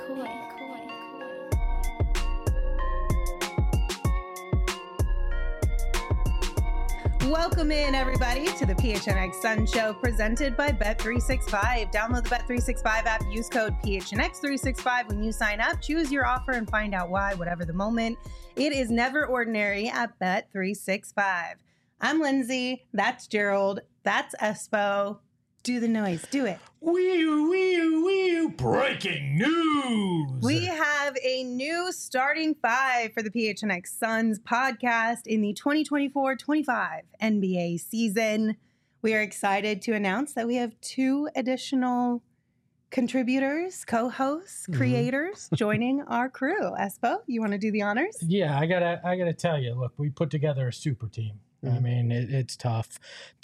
Welcome in, everybody, to the PHNX Sun Show presented by Bet365. Download the Bet365 app, use code PHNX365 when you sign up. Choose your offer and find out why, whatever the moment. It is never ordinary at Bet365. I'm Lindsay. That's Gerald. That's Espo. Do the noise. Do it. Wee-oo. Breaking news. We have a new starting five for the PHNX Suns podcast in the 2024-25 NBA season. We are excited to announce that we have two additional contributors, co-hosts, creators joining our crew. Espo, you want to do the honors? Yeah, I gotta tell you. Look, we put together a super team. I mean, it's tough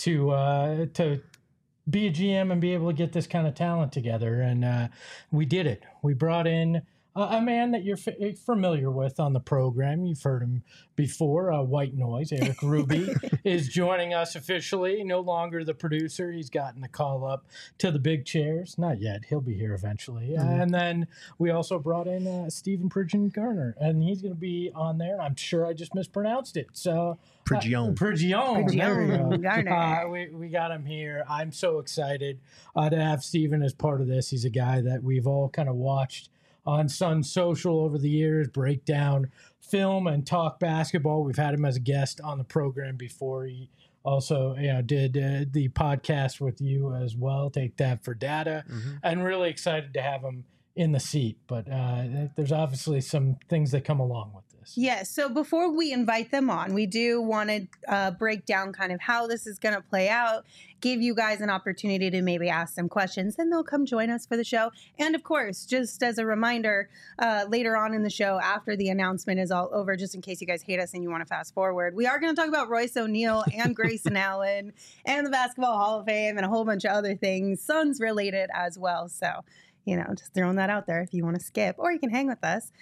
to be a GM and be able to get this kind of talent together. And we did it. We brought in a man that you're familiar with on the program. You've heard him before, White Noise. Eric Ruby is joining us officially. No longer the producer. He's gotten the call up to the big chairs. Not yet. He'll be here eventually. And then we also brought in Stephen Pridgeon Garner, and he's going to be on there. I'm sure I just mispronounced it. So Pridgeon. Garner. We got him here. I'm so excited to have Stephen as part of this. He's a guy that we've all kind of watched on Sun Social over the years, break down film and talk basketball. We've had him as a guest on the program before. He also did the podcast with you as well, Take That for Data, and really excited to have him in the seat. But there's obviously some things that come along with this. Yes. So before we invite them on, we do want to break down kind of how this is going to play out, give you guys an opportunity to maybe ask some questions, and they'll come join us for the show. And of course, just as a reminder, later on in the show, after the announcement is all over, just in case you guys hate us and you want to fast forward, we are going to talk about Royce O'Neal and Grayson Allen and the Basketball Hall of Fame and a whole bunch of other things, Suns related as well. So, just throwing that out there if you want to skip, or you can hang with us.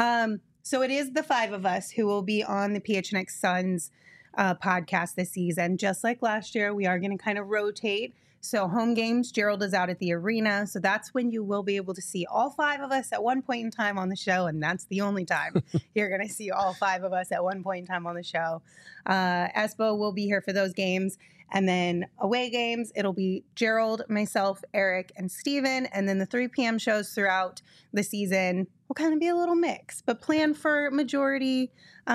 So it is the five of us who will be on the PHNX Suns podcast this season. Just like last year, we are going to kind of rotate. So home games, Gerald is out at the arena. So that's when you will be able to see all five of us at one point in time on the show. And that's the only time you're going to see all five of us at one point in time on the show. Espo will be here for those games. And then away games, it'll be Gerald, myself, Eric, and Steven. And then the 3 p.m. shows throughout the season will kind of be a little mix. But plan for majority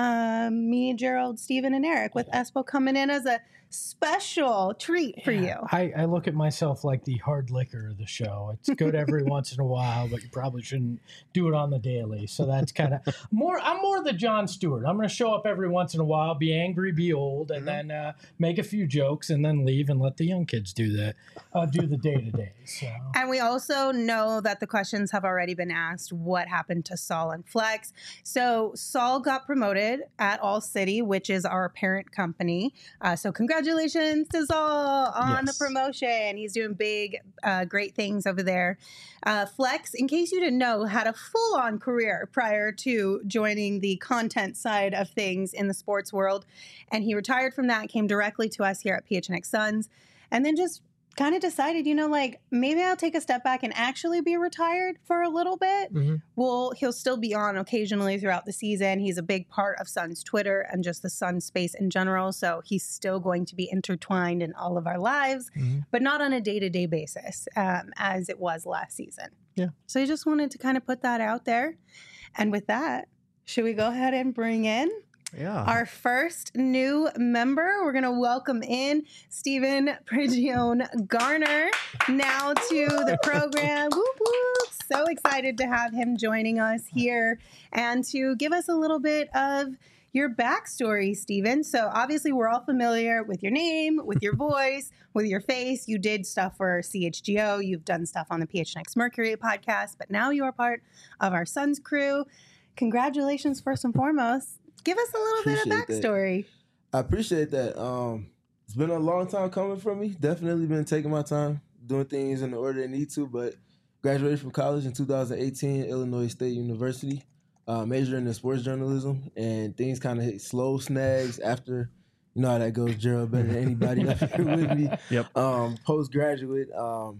me, Gerald, Steven, and Eric, with Espo coming in as a special treat for you. I look at myself like the hard liquor of the show. It's good every once in a while, but you probably shouldn't do it on the daily. So that's kind of I'm more the Jon Stewart. I'm going to show up every once in a while, be angry, be old, and then make a few jokes and then leave and let the young kids do the day-to-day. So. And we also know that the questions have already been asked. What happened to Saul and Flex? So Saul got promoted at All City, which is our parent company. So congratulations to Saul on the promotion. He's doing big, great things over there. Flex, in case you didn't know, had a full-on career prior to joining the content side of things in the sports world. And he retired from that, came directly to us here at PHNX Suns, and then just kind of decided, maybe I'll take a step back and actually be retired for a little bit. Well, he'll still be on occasionally throughout the season. He's a big part of Suns Twitter and just the Suns space in general. So he's still going to be intertwined in all of our lives, but not on a day-to-day basis as it was last season. Yeah. So I just wanted to kind of put that out there. And with that, should we go ahead and bring in our first new member? We're going to welcome in Stephen Pridgeon Garner now to the program. Whoop, whoop. So excited to have him joining us here and to give us a little bit of your backstory, Stephen. So obviously we're all familiar with your name, with your voice, with your face. You did stuff for CHGO. You've done stuff on the PHNX Mercury podcast, but now you are part of our Suns crew. Congratulations, first and foremost. Give us a little bit of backstory. I appreciate that. It's been a long time coming for me. Definitely been taking my time, doing things in the order they need to, but graduated from college in 2018, Illinois State University, majoring in sports journalism, and things kind of hit slow snags after, you know how that goes, Gerald, better than anybody up here with me. Yep. Postgraduate,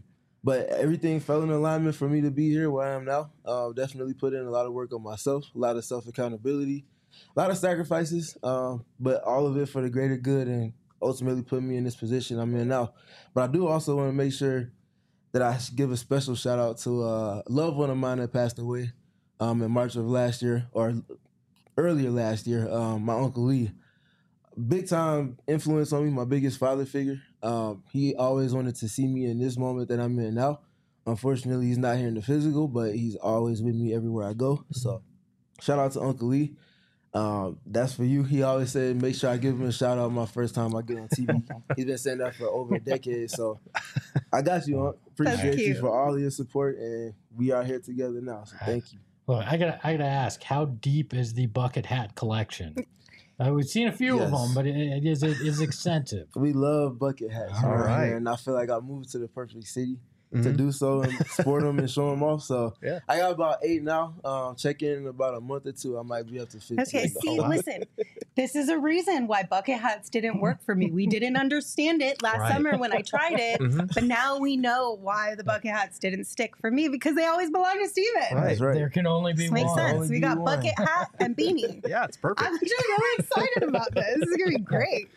But everything fell in alignment for me to be here where I am now. Definitely put in a lot of work on myself, a lot of self-accountability, a lot of sacrifices, but all of it for the greater good and ultimately put me in this position I'm in now. But I do also want to make sure that I give a special shout out to a loved one of mine that passed away in March of last year, or earlier last year, my Uncle Lee. Big time influence on me, my biggest father figure. He always wanted to see me in this moment that I'm in now. Unfortunately, he's not here in the physical, but he's always with me everywhere I go. So shout out to Uncle Lee. That's for you. He always said, make sure I give him a shout out my first time I get on TV. He's been saying that for over a decade. So I got you, Unc. Appreciate you for all of your support, and we are here together now. So thank you. Look, I gotta ask, how deep is the bucket hat collection? We've seen a few of them, but it is extensive. We love bucket hats. All right. And I feel like I moved to the perfect city to do so and sport them and show them off. So I got about 8 now. Check in about a month or 2. I might be up to 15. Okay, see, listen, this is a reason why bucket hats didn't work for me. We didn't understand it last summer when I tried it, but now we know why the bucket hats didn't stick for me, because they always belong to Steven. That's right. There can only be This one. makes sense. We got bucket hat and beanie. Yeah, it's perfect. I'm actually really excited about this. This is going to be great.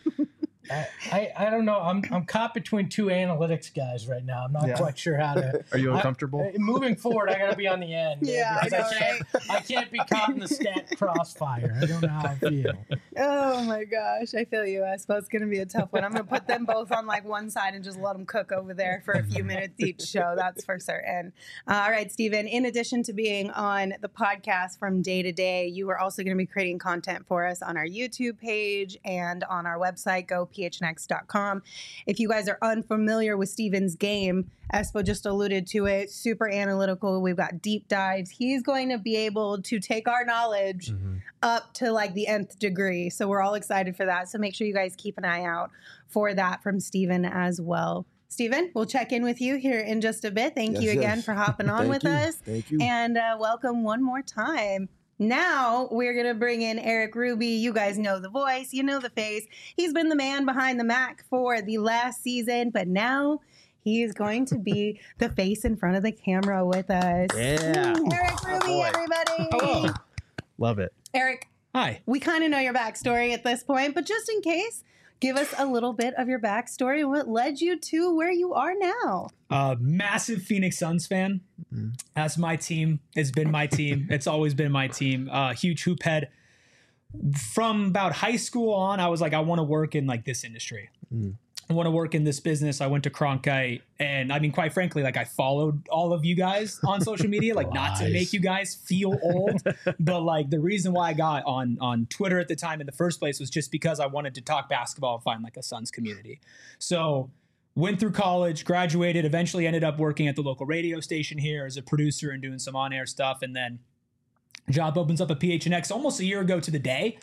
I don't know. I'm caught between 2 analytics guys right now. I'm not quite sure how to. Are you uncomfortable? Moving forward, I got to be on the end. Yeah, I know, right? I can't be caught in the stat crossfire. I don't know how I feel. Oh my gosh, I feel you. I suppose it's going to be a tough one. I'm going to put them both on like one side and just let them cook over there for a few minutes each show. That's for certain. All right, Steven, in addition to being on the podcast from day to day, you are also going to be creating content for us on our YouTube page and on our website, gophnx.com. If you guys are unfamiliar with Steven's game, Espo just alluded to it, super analytical. We've got deep dives. He's going to be able to take our knowledge up to like the nth degree. So we're all excited for that. So make sure you guys keep an eye out for that from Steven as well. Steven, we'll check in with you here in just a bit. Thank you again for hopping on with us. Thank you. And welcome one more time. Now we're going to bring in Eric Ruby. You guys know the voice. You know the face. He's been the man behind the Mac for the last season, but now he is going to be the face in front of the camera with us. Yeah. Eric Ruby, everybody. Hello. Love it. Eric. Hi. We kind of know your backstory at this point, but just in case, give us a little bit of your backstory. What led you to where you are now? Massive Phoenix Suns fan. That's my team. It's been my team. It's always been my team. Huge hoop head. From about high school on, I was like, I want to work in like this industry. I want to work in this business. I went to Cronkite, and I mean, quite frankly, like I followed all of you guys on social media, like not to make you guys feel old, but like the reason why I got on Twitter at the time in the first place was just because I wanted to talk basketball and find like a Suns community. So went through college, graduated, eventually ended up working at the local radio station here as a producer and doing some on-air stuff, and then job opens up at PHNX almost a year ago to the day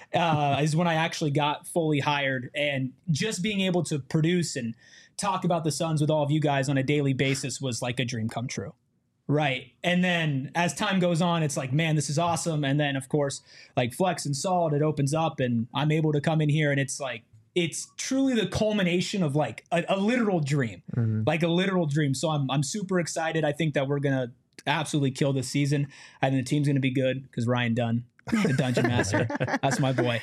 is when I actually got fully hired, and just being able to produce and talk about the Suns with all of you guys on a daily basis was like a dream come true. Right. And then as time goes on, it's like, man, this is awesome. And then of course, like Flex and Salt, it opens up and I'm able to come in here, and it's like, it's truly the culmination of like a literal dream, like a literal dream. So I'm super excited. I think that we're going to absolutely kill this season. I think the team's going to be good because Ryan Dunn, the Dungeon Master, that's my boy.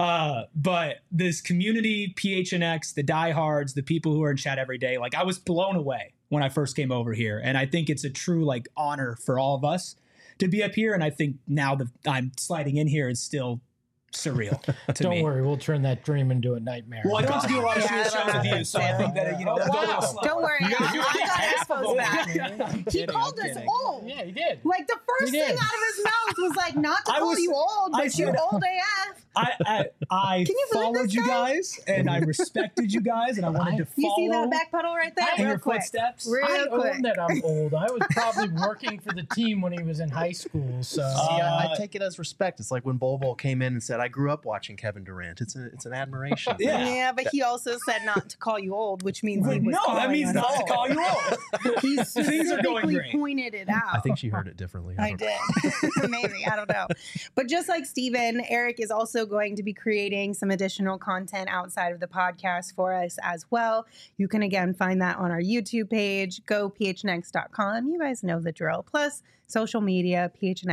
But this community, PHNX, the diehards, the people who are in chat every day, like I was blown away when I first came over here. And I think it's a true like honor for all of us to be up here. And I think now that I'm sliding in here is still surreal to me. Don't worry, we'll turn that dream into a nightmare. Well, I don't have to do a lot of shows with you, so I think that, you know, Oh, go a wow. little slower. Don't worry, I got Espo's back. He kidding, called I'm us kidding. old. Yeah, he did. Like the first He thing did. out of his mouth was like, not to I call was- you old, I but you said- old AF. I Can you believe followed this you guy? guys, and I respected you guys, and I wanted to You follow see that back pedal right there? in Real your quick. footsteps. Real I quick. own that I'm old. I was probably working for the team when he was in high school. So See, I take it as respect. It's like when Bol Bol came in and said, I grew up watching Kevin Durant. It's an admiration. Yeah. But he also said not to call you old, which means he was No, that calling means us not to old. call you old. He Things are going specifically great. pointed it out. I think she heard it differently. I don't know. did. Maybe. I don't know. But just like Steven, Eric is also going to be creating creating some additional content outside of the podcast for us as well. You can again find that on our YouTube page, gophnx.com. You guys know the drill. Plus social media,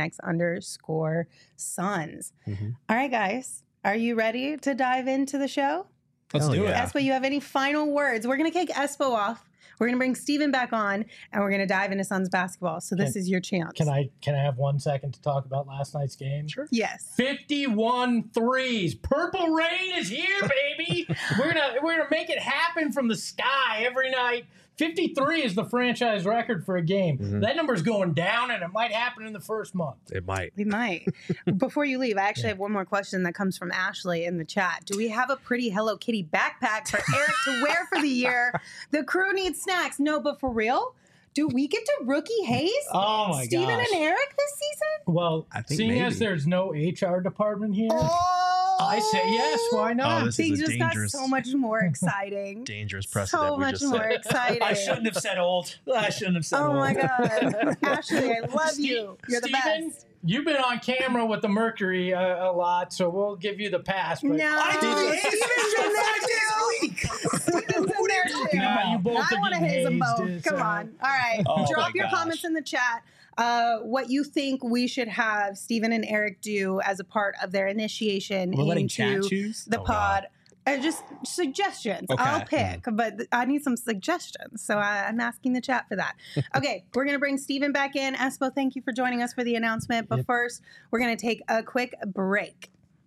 PHNX_Suns. All right, guys, are you ready to dive into the show? Let's do it. Espo, you have any final words? We're going to kick Espo off. We're going to bring Steven back on, and we're going to dive into Suns basketball. So this is your chance. Can I have 1 second to talk about last night's game? Sure. Yes. 51 threes. Purple rain is here, baby. We're gonna make it happen from the sky every night. 53 is the franchise record for a game. That number's going down, and it might happen in the first month. It might. We might. Before you leave, I actually have one more question that comes from Ashley in the chat. Do we have a pretty Hello Kitty backpack for Eric to wear for the year? The crew needs snacks. No, but for real? Do we get to rookie Hayes? Oh, my Steven gosh. and Eric this season? Well, I think seeing as maybe. there's no HR department here, Oh! I say yes. Why not? this Things is a just got dangerous, so much more exciting. dangerous precedent So we much just more set. exciting. I shouldn't have said old. I shouldn't have said Oh old. my God. Ashley, I love you. You're the Steven, best. you've been on camera with the Mercury a lot, so we'll give you the pass. But No. I did Steven's in there too. Nah, you both I are want to getting haze them hazed. both. It's, Come on. All right. Oh Drop my your gosh. comments in the chat. What you think we should have Steven and Eric do as a part of their initiation We're letting into chat choose? the Oh, pod. Just suggestions. Okay. I'll pick, but I need some suggestions. So I'm asking the chat for that. Okay, we're going to bring Steven back in. Espo, thank you for joining us for the announcement. But first, we're going to take a quick break.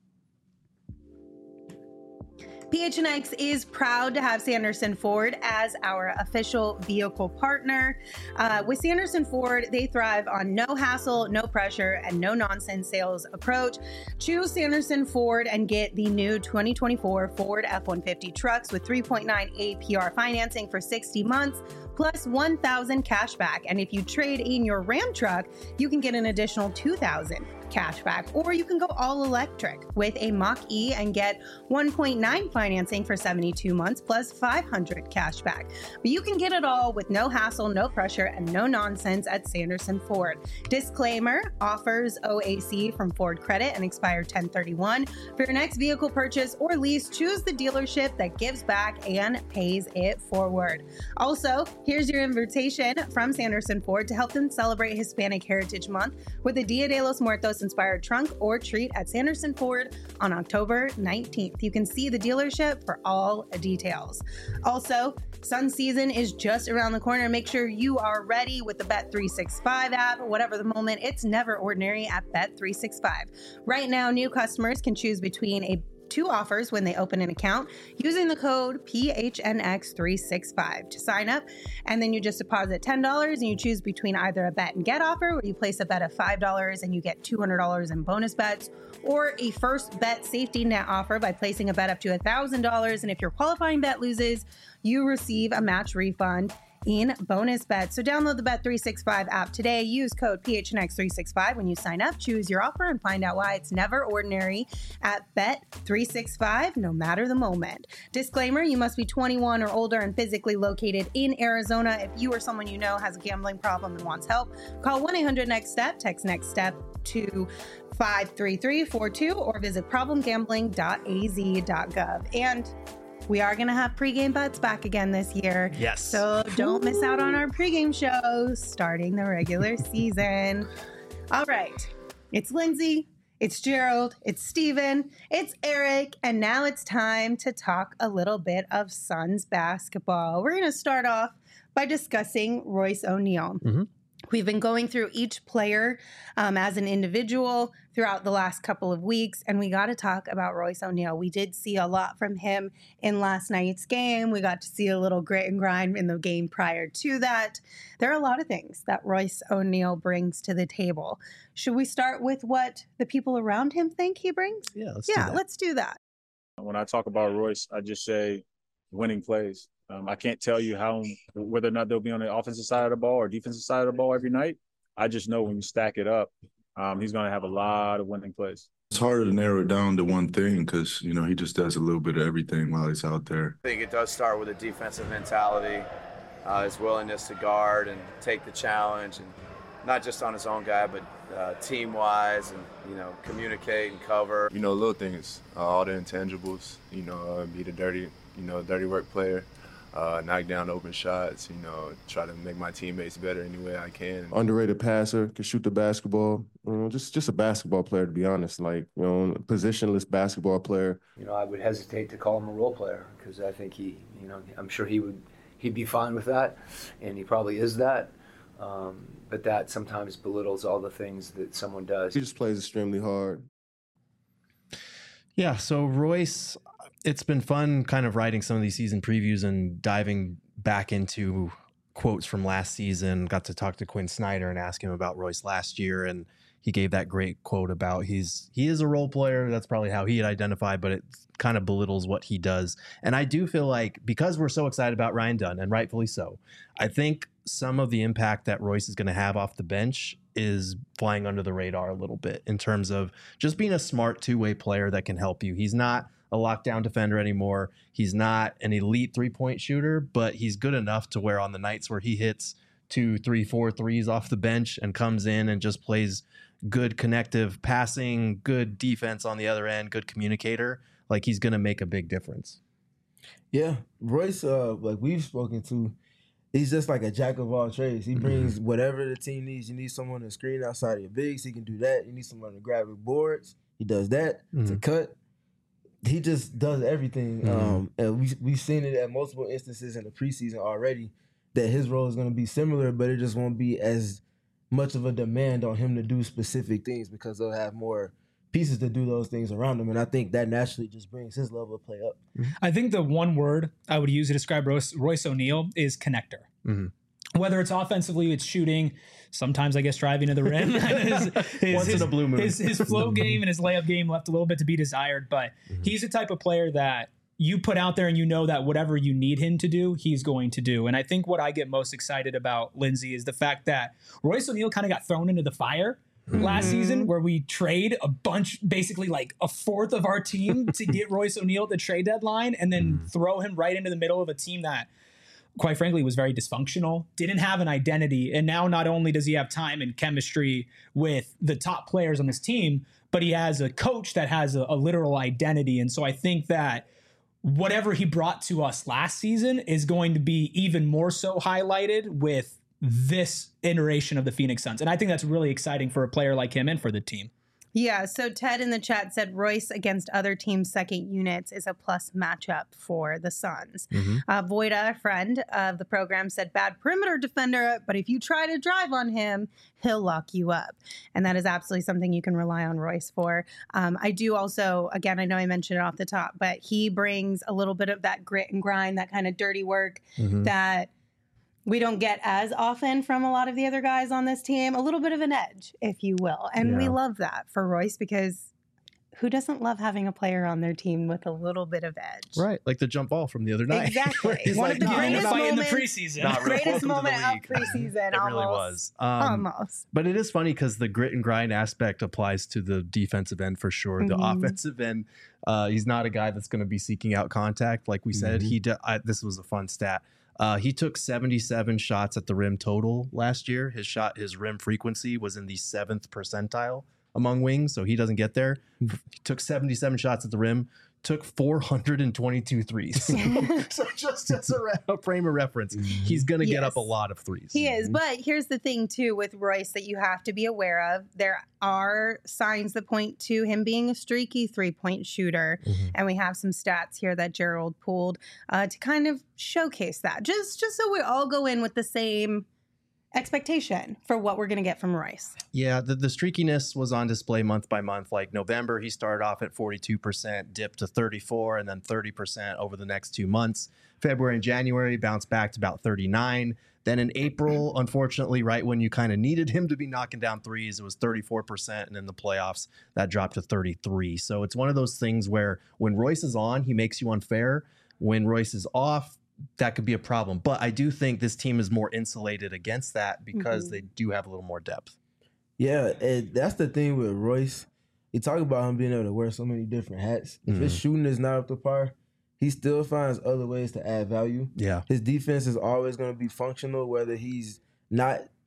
PHNX is proud to have Sanderson Ford as our official vehicle partner. With Sanderson Ford, they thrive on no hassle, no pressure, and no nonsense sales approach. Choose Sanderson Ford and get the new 2024 Ford F-150 trucks with 3.9 APR financing for 60 months. Plus 1,000 cash back. And if you trade in your Ram truck, you can get an additional 2,000 cash back. Or you can go all electric with a Mach-E and get 1.9 financing for 72 months plus 500 cash back. But you can get it all with no hassle, no pressure, and no nonsense at Sanderson Ford. Disclaimer, offers OAC from Ford Credit and expire 10/31. For your next vehicle purchase or lease, choose the dealership that gives back and pays it forward. Also, here's your invitation from Sanderson Ford to help them celebrate Hispanic Heritage Month with a Dia de los Muertos inspired trunk or treat at Sanderson Ford on October 19th. You can see the dealership for all details. Also, Sun season is just around the corner. Make sure you are ready with the Bet365 app. Whatever the moment, it's never ordinary at Bet365. Right now, new customers can choose between two offers when they open an account using the code PHNX365 to sign up. And then you just deposit $10 and you choose between either a bet and get offer where you place a bet of $5 and you get $200 in bonus bets, or a first bet safety net offer by placing a bet up to $1,000. And if your qualifying bet loses, you receive a match refund in bonus bets. So download the Bet365 app today. Use code PHNX365 when you sign up. Choose your offer and find out why it's never ordinary at Bet365, no matter the moment. Disclaimer, you must be 21 or older and physically located in Arizona. If you or someone you know has a gambling problem and wants help, call 1-800-NEXT-STEP, text NEXT STEP to 53342 or visit problemgambling.az.gov. And we are going to have pregame bets back again this year. Yes. So don't miss out on our pregame shows starting the regular season. All right. It's Lindsay. It's Gerald. It's Steven. It's Eric. And now it's time to talk a little bit of Suns basketball. We're going to start off by discussing Royce O'Neal. We've been going through each player as an individual throughout the last couple of weeks, and we got to talk about Royce O'Neal. We did see a lot from him in last night's game. We got to see a little grit and grind in the game prior to that. There are a lot of things that Royce O'Neal brings to the table. Should we start with what the people around him think he brings? Yeah, Let's do that. When I talk about Royce, I just say winning plays. I can't tell you whether or not they'll be on the offensive side of the ball or defensive side of the ball every night. I just know when you stack it up, he's going to have a lot of winning plays. It's harder to narrow it down to one thing because, he just does a little bit of everything while he's out there. I think it does start with a defensive mentality, his willingness to guard and take the challenge and not just on his own guy, but team-wise, and communicate and cover. Little things, all the intangibles. Be the dirty work player. Knock down open shots, try to make my teammates better any way I can. Underrated passer, can shoot the basketball. Just a basketball player, to be honest. Positionless basketball player. I would hesitate to call him a role player because I think I'm sure he'd be fine with that, and he probably is that. But that sometimes belittles all the things that someone does. He just plays extremely hard. Yeah, so Royce, it's been fun kind of writing some of these season previews and diving back into quotes from last season. Got to talk to Quinn Snyder and ask him about Royce last year, and he gave that great quote about he is a role player. That's probably how he'd identify, but it kind of belittles what he does. And I do feel like because we're so excited about Ryan Dunn, and rightfully so, I think some of the impact that Royce is going to have off the bench is flying under the radar a little bit in terms of just being a smart two-way player that can help you. He's not a lockdown defender anymore. He's not an elite three-point shooter, but he's good enough to where on the nights where he hits 2, 3, 4 threes off the bench and comes in and just plays good connective passing, good defense on the other end, good communicator, like he's going to make a big difference. Yeah, Royce, like we've spoken to, he's just like a jack of all trades. He brings whatever the team needs. You need someone to screen outside of your bigs, he can do that. You need someone to grab your boards, he does that. To cut, he just does everything. And we've seen it at multiple instances in the preseason already that his role is going to be similar, but it just won't be as much of a demand on him to do specific things because they'll have more pieces to do those things around him. And I think that naturally just brings his level of play up. I think the one word I would use to describe Royce O'Neal is connector. Whether it's offensively, it's shooting, sometimes I guess driving to the rim. Once in a blue moon. His flow game and his layup game left a little bit to be desired, but he's the type of player that you put out there and you know that whatever you need him to do, he's going to do. And I think what I get most excited about, Lindsay, is the fact that Royce O'Neal kind of got thrown into the fire last season where we trade a bunch, basically like a fourth of our team to get Royce O'Neal at the trade deadline and then throw him right into the middle of a team that, quite frankly, was very dysfunctional, didn't have an identity. And now not only does he have time and chemistry with the top players on this team, but he has a coach that has a literal identity. And so I think that whatever he brought to us last season is going to be even more so highlighted with this iteration of the Phoenix Suns. And I think that's really exciting for a player like him and for the team. Yeah, so Ted in the chat said Royce against other teams' second units is a plus matchup for the Suns. Voida, a friend of the program, said bad perimeter defender, but if you try to drive on him, he'll lock you up. And that is absolutely something you can rely on Royce for. I do also, again, I know I mentioned it off the top, but he brings a little bit of that grit and grind, that kind of dirty work that we don't get as often from a lot of the other guys on this team. A little bit of an edge, if you will. And we love that for Royce because who doesn't love having a player on their team with a little bit of edge? Right, like the jump ball from the other night. Exactly. One of of the greatest moments in the preseason. Greatest moment of preseason. It really was. Almost. But it is funny because the grit and grind aspect applies to the defensive end for sure. The offensive end, he's not a guy that's going to be seeking out contact. Like we said, this was a fun stat. He took 77 shots at the rim total last year. His rim frequency was in the 7th percentile among wings, so he doesn't get there. He took 77 shots at the rim, took 422 threes. So just as a frame of reference, he's going to get up a lot of threes. He is, but here's the thing too with Royce that you have to be aware of. There are signs that point to him being a streaky three-point shooter, and we have some stats here that Gerald pulled to kind of showcase that. Just so we all go in with the same expectation for what we're going to get from Royce. Yeah, the streakiness was on display month by month. Like November, he started off at 42%, dipped to 34%, and then 30% over the next 2 months. February and January bounced back to about 39%. Then in April, unfortunately, right when you kind of needed him to be knocking down threes, it was 34%, and in the playoffs, that dropped to 33%. So it's one of those things where when Royce is on, he makes you unfair. When Royce is off, that could be a problem. But I do think this team is more insulated against that because they do have a little more depth. Yeah, and that's the thing with Royce. You talk about him being able to wear so many different hats. If his shooting is not up to par, he still finds other ways to add value. Yeah. His defense is always going to be functional, whether he's not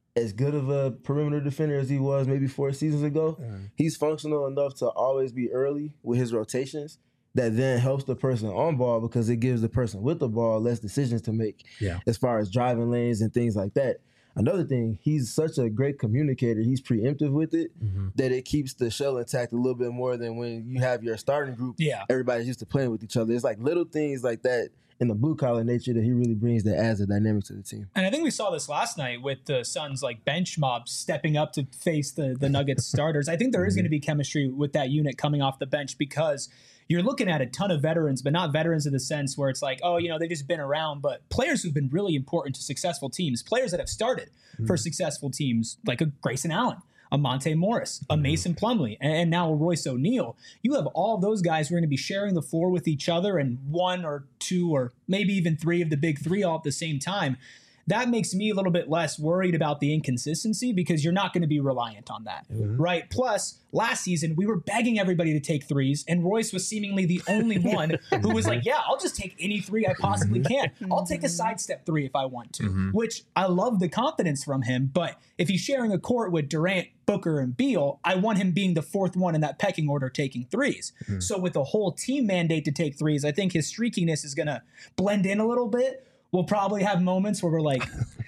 as good of a perimeter defender as he was maybe 4 seasons ago, he's functional enough to always be early with his rotations. That then helps the person on ball because it gives the person with the ball less decisions to make as far as driving lanes and things like that. Another thing, he's such a great communicator. He's preemptive with it that it keeps the shell intact a little bit more than when you have your starting group. Yeah. Everybody's used to playing with each other. It's like little things like that in the blue collar nature that he really brings that adds a dynamic to the team. And I think we saw this last night with the Suns like bench mob stepping up to face the Nuggets starters. I think there is going to be chemistry with that unit coming off the bench because you're looking at a ton of veterans, but not veterans in the sense where it's like, oh, they've just been around, but players who've been really important to successful teams, players that have started for successful teams, like a Grayson Allen, a Monte Morris, a Mason Plumlee, and now a Royce O'Neal. You have all those guys who are going to be sharing the floor with each other and 1 or 2 or maybe even 3 of the big 3 all at the same time. That makes me a little bit less worried about the inconsistency because you're not going to be reliant on that, right? Plus, last season, we were begging everybody to take threes, and Royce was seemingly the only one who was like, yeah, I'll just take any 3 I possibly can. I'll take a sidestep 3 if I want to, which I love the confidence from him. But if he's sharing a court with Durant, Booker, and Beal, I want him being the 4th one in that pecking order taking threes. So with the whole team mandate to take threes, I think his streakiness is going to blend in a little bit. We'll probably have moments where we're like,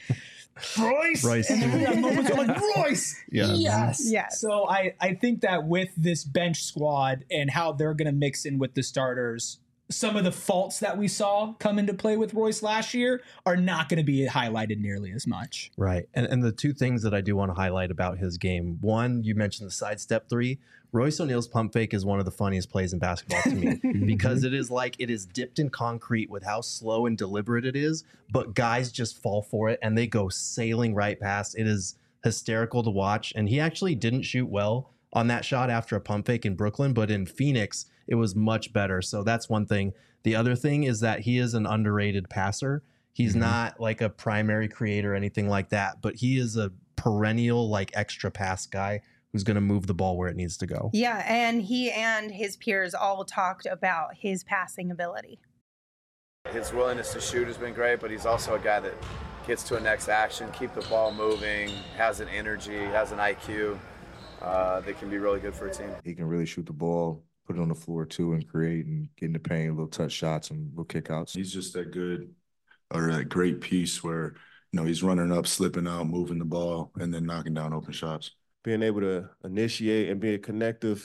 Royce. And then we have moments where we're like, Royce. Yes. So I think that with this bench squad and how they're going to mix in with the starters, some of the faults that we saw come into play with Royce last year are not going to be highlighted nearly as much. Right. And the 2 things that I do want to highlight about his game. One, you mentioned the sidestep 3. Royce O'Neal's pump fake is one of the funniest plays in basketball to me because it is dipped in concrete with how slow and deliberate it is, but guys just fall for it and they go sailing right past. It is hysterical to watch. And he actually didn't shoot well on that shot after a pump fake in Brooklyn, but in Phoenix, it was much better. So that's one thing. The other thing is that he is an underrated passer. He's not like a primary creator or anything like that, but he is a perennial like extra pass guy who's going to move the ball where it needs to go. Yeah, and he and his peers all talked about his passing ability. His willingness to shoot has been great, but he's also a guy that gets to a next action, keep the ball moving, has an energy, has an IQ that can be really good for a team. He can really shoot the ball, put it on the floor too, and create and get in the paint, little touch shots and little kickouts. He's just that good or that great piece where, he's running up, slipping out, moving the ball, and then knocking down open shots. Being able to initiate and be a connective,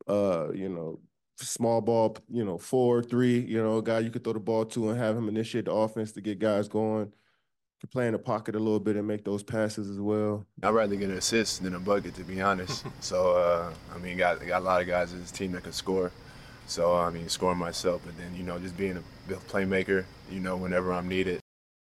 small ball, 4, 3, a guy you could throw the ball to and have him initiate the offense to get guys going. Could play in the pocket a little bit and make those passes as well. I'd rather get an assist than a bucket, to be honest. So, got a lot of guys in this team that can score. So, scoring myself, but then, just being a playmaker, whenever I'm needed.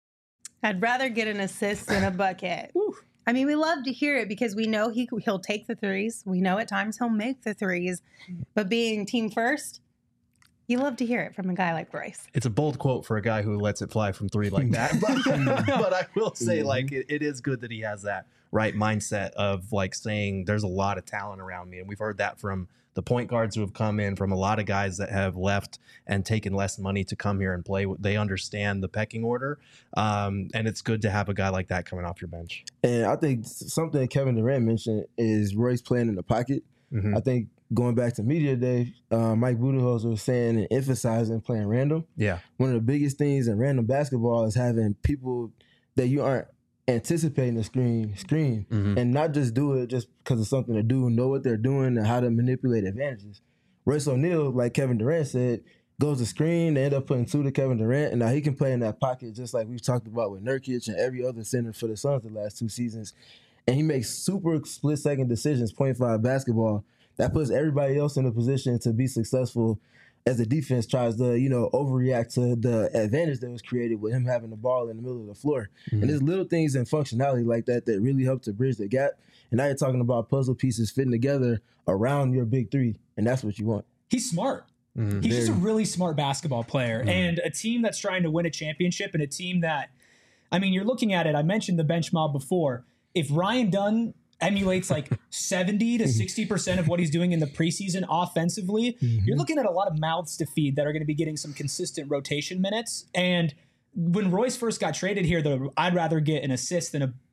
I'd rather get an assist than a bucket. I mean, we love to hear it because we know he'll take the threes. We know at times he'll make the threes. But being team first, you love to hear it from a guy like Royce. It's a bold quote for a guy who lets it fly from 3 like that. But I will say, it is good that he has that right mindset of, saying there's a lot of talent around me. And we've heard that from the point guards who have come in, from a lot of guys that have left and taken less money to come here and play. They understand the pecking order. And it's good to have a guy like that coming off your bench. And I think something Kevin Durant mentioned is Royce playing in the pocket. I think going back to media day, Mike Budenholzer was saying and emphasizing playing random. Yeah. One of the biggest things in random basketball is having people that you aren't anticipating the screen and not just do it just because of something to do, know what they're doing and how to manipulate advantages. Royce O'Neal, like Kevin Durant said, goes to screen, they end up putting 2 to Kevin Durant, and now he can play in that pocket just like we've talked about with Nurkic and every other center for the Suns the last 2 seasons. And he makes super split-second decisions, 0.5 basketball, that puts everybody else in a position to be successful as the defense tries to, overreact to the advantage that was created with him having the ball in the middle of the floor. And there's little things and functionality like that that really help to bridge the gap. And now you're talking about puzzle pieces fitting together around your big 3, and that's what you want. He's smart. He's just a really smart basketball player. And a team that's trying to win a championship and a team that, you're looking at it, I mentioned the bench mob before. If Ryan Dunn emulates 70 to 60% of what he's doing in the preseason offensively, you're looking at a lot of mouths to feed that are going to be getting some consistent rotation minutes. And when Royce first got traded here, I'd rather get an assist than a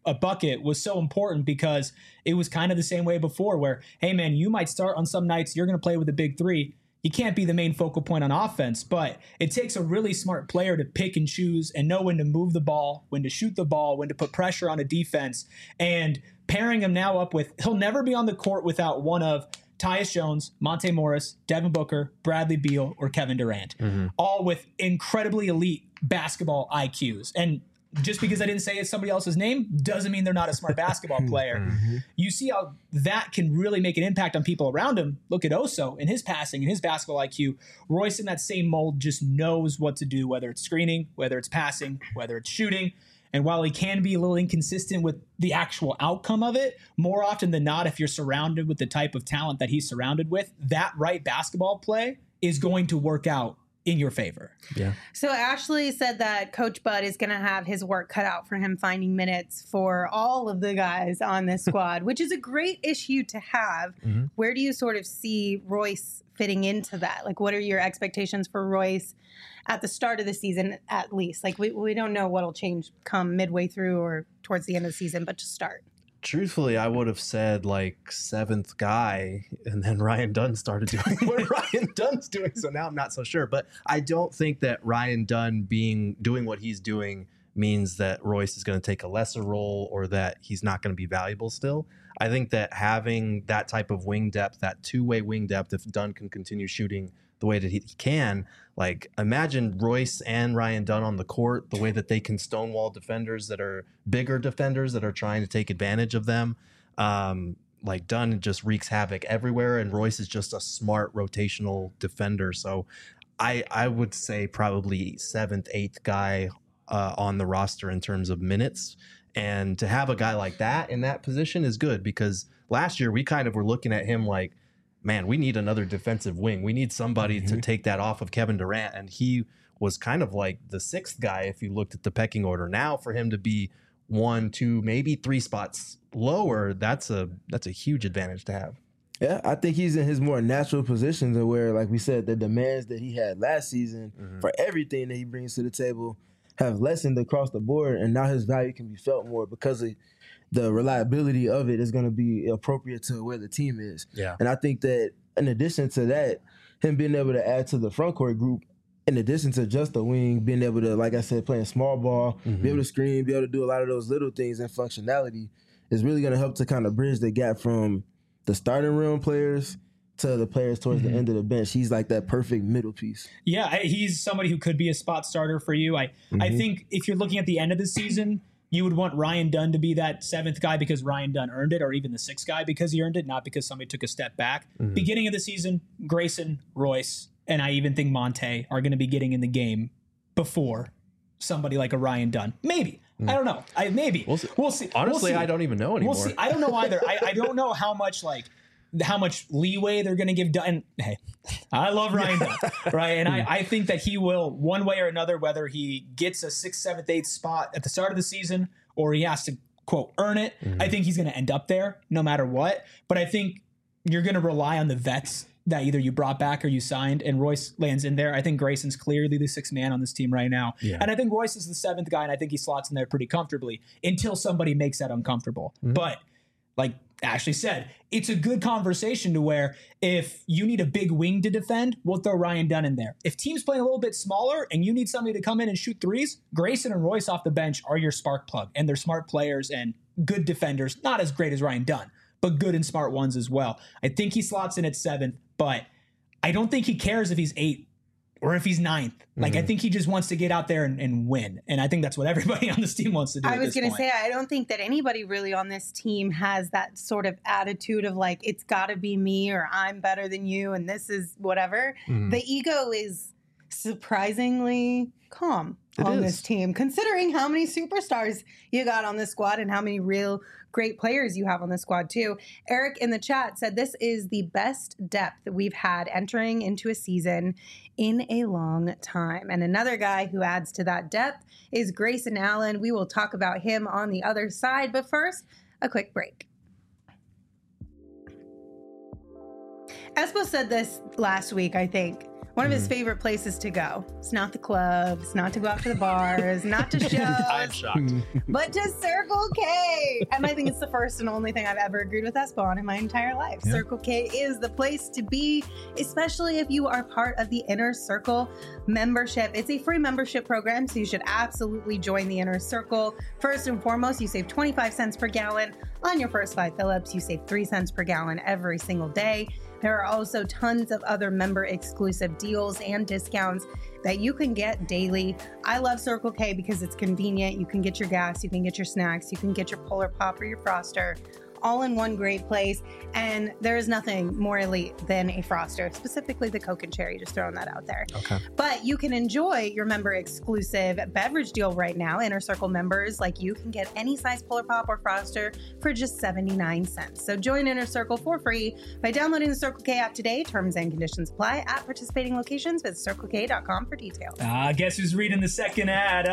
a bucket was so important because it was kind of the same way before where, hey man, you might start on some nights, you're going to play with a big three. You can't be the main focal point on offense, but it takes a really smart player to pick and choose and know when to move the ball, when to shoot the ball, when to put pressure on a defense. And pairing him now up with, he'll never be on the court without one of Tyus Jones, Monte Morris, Devin Booker, Bradley Beal, or Kevin Durant, all with incredibly elite basketball IQs. And just because I didn't say it's somebody else's name doesn't mean they're not a smart basketball player. You see how that can really make an impact on people around him. Look at Oso and his passing and his basketball IQ. Royce in that same mold just knows what to do, whether it's screening, whether it's passing, whether it's shooting. And while he can be a little inconsistent with the actual outcome of it, more often than not, if you're surrounded with the type of talent that he's surrounded with, that right basketball play is going to work out in your favor. Yeah. So Ashley said that Coach Bud is going to have his work cut out for him finding minutes for all of the guys on this squad, which is a great issue to have. Where do you sort of see Royce fitting into that? Like, what are your expectations for Royce at the start of the season, at least? Like, we don't know what'll change come midway through or towards the end of the season, but to start. Truthfully, I would have said like seventh guy, and then Ryan Dunn started doing what Ryan Dunn's doing. So now I'm not so sure. But I don't think that Ryan Dunn doing what he's doing means that Royce is going to take a lesser role or that he's not going to be valuable still. I think that having that type of wing depth, that two-way wing depth, if Dunn can continue shooting the way that he can, like imagine Royce and Ryan Dunn on the court, the way that they can stonewall defenders that are bigger defenders that are trying to take advantage of them. Like Dunn just wreaks havoc everywhere, and Royce is just a smart rotational defender. So I would say probably seventh, eighth guy on the roster in terms of minutes. And to have a guy like that in that position is good, because last year we kind of were looking at him like, man, we need another defensive wing. We need somebody to take that off of Kevin Durant. And he was kind of like the sixth guy if you looked at the pecking order. Now for him to be 1, 2, maybe 3 spots lower, that's a huge advantage to have. Yeah, I think he's in his more natural position to where, like we said, the demands that he had last season for everything that he brings to the table have lessened across the board, and now his value can be felt more because of the reliability of it is going to be appropriate to where the team is. Yeah. And I think that in addition to that, him being able to add to the front court group, in addition to just the wing, being able to, like I said, playing small ball, be able to screen, be able to do a lot of those little things and functionality is really going to help to kind of bridge the gap from the starting rim players to the players towards the end of the bench. He's like that perfect middle piece. Yeah, he's somebody who could be a spot starter for you. I think if you're looking at the end of the season, you would want Ryan Dunn to be that seventh guy because Ryan Dunn earned it, or even the sixth guy because he earned it, not because somebody took a step back. Beginning of the season, Grayson, Royce, and I even think Monte are going to be getting in the game before somebody like a Ryan Dunn. Maybe. I don't know. Maybe. We'll see. Honestly, I don't even know anymore. We'll see. I don't know either. I don't know how much leeway they're going to give Dunn. Hey, I love Ryan Dunn, right? And I think that he will, one way or another, whether he gets a 6th, 7th, 8th spot at the start of the season or he has to, quote, earn it, I think he's going to end up there no matter what. But I think you're going to rely on the vets that either you brought back or you signed, and Royce lands in there. I think Grayson's clearly the 6th man on this team right now. Yeah. And I think Royce is the 7th guy, and I think he slots in there pretty comfortably until somebody makes that uncomfortable. But like Ashley said, it's a good conversation to where if you need a big wing to defend, we'll throw Ryan Dunn in there. If team's playing a little bit smaller and you need somebody to come in and shoot threes, Grayson and Royce off the bench are your spark plug, and they're smart players and good defenders, not as great as Ryan Dunn, but good and smart ones as well. I think he slots in at 7th, but I don't think he cares if he's 8th or if he's 9th. Like, I think he just wants to get out there and win. And I think that's what everybody on this team wants to do. I was going to say, I don't think that anybody really on this team has that sort of attitude of like, it's got to be me or I'm better than you and this is whatever. The ego is surprisingly calm on this team, considering how many superstars you got on this squad and how many real great players you have on the squad too. Eric in the chat said this is the best depth that we've had entering into a season in a long time. And another guy who adds to that depth is Grayson Allen. We will talk about him on the other side, but first, a quick break. Espo said this last week, I think. One of his favorite places to go. It's not the clubs, not to go out to the bars, not to shows. I'm shocked. But to Circle K. And I think it's the first and only thing I've ever agreed with Espo on in my entire life. Yeah. Circle K is the place to be, especially if you are part of the Inner Circle membership. It's a free membership program, so you should absolutely join the Inner Circle. First and foremost, you save 25 cents per gallon on your first 5 fill-ups. You save 3 cents per gallon every single day. There are also tons of other member exclusive deals and discounts that you can get daily. I love Circle K because it's convenient. You can get your gas, you can get your snacks, you can get your Polar Pop or your Froster all in one great place. And there is nothing more elite than a Froster, specifically the Coke and Cherry, just throwing that out there. Okay. But you can enjoy your member exclusive beverage deal right now. Inner Circle members like you can get any size Polar Pop or Froster for just 79 cents. So join Inner Circle for free by downloading the Circle K app today. Terms and conditions apply at participating locations. Visit CircleK.com for details. Guess who's reading the second ad?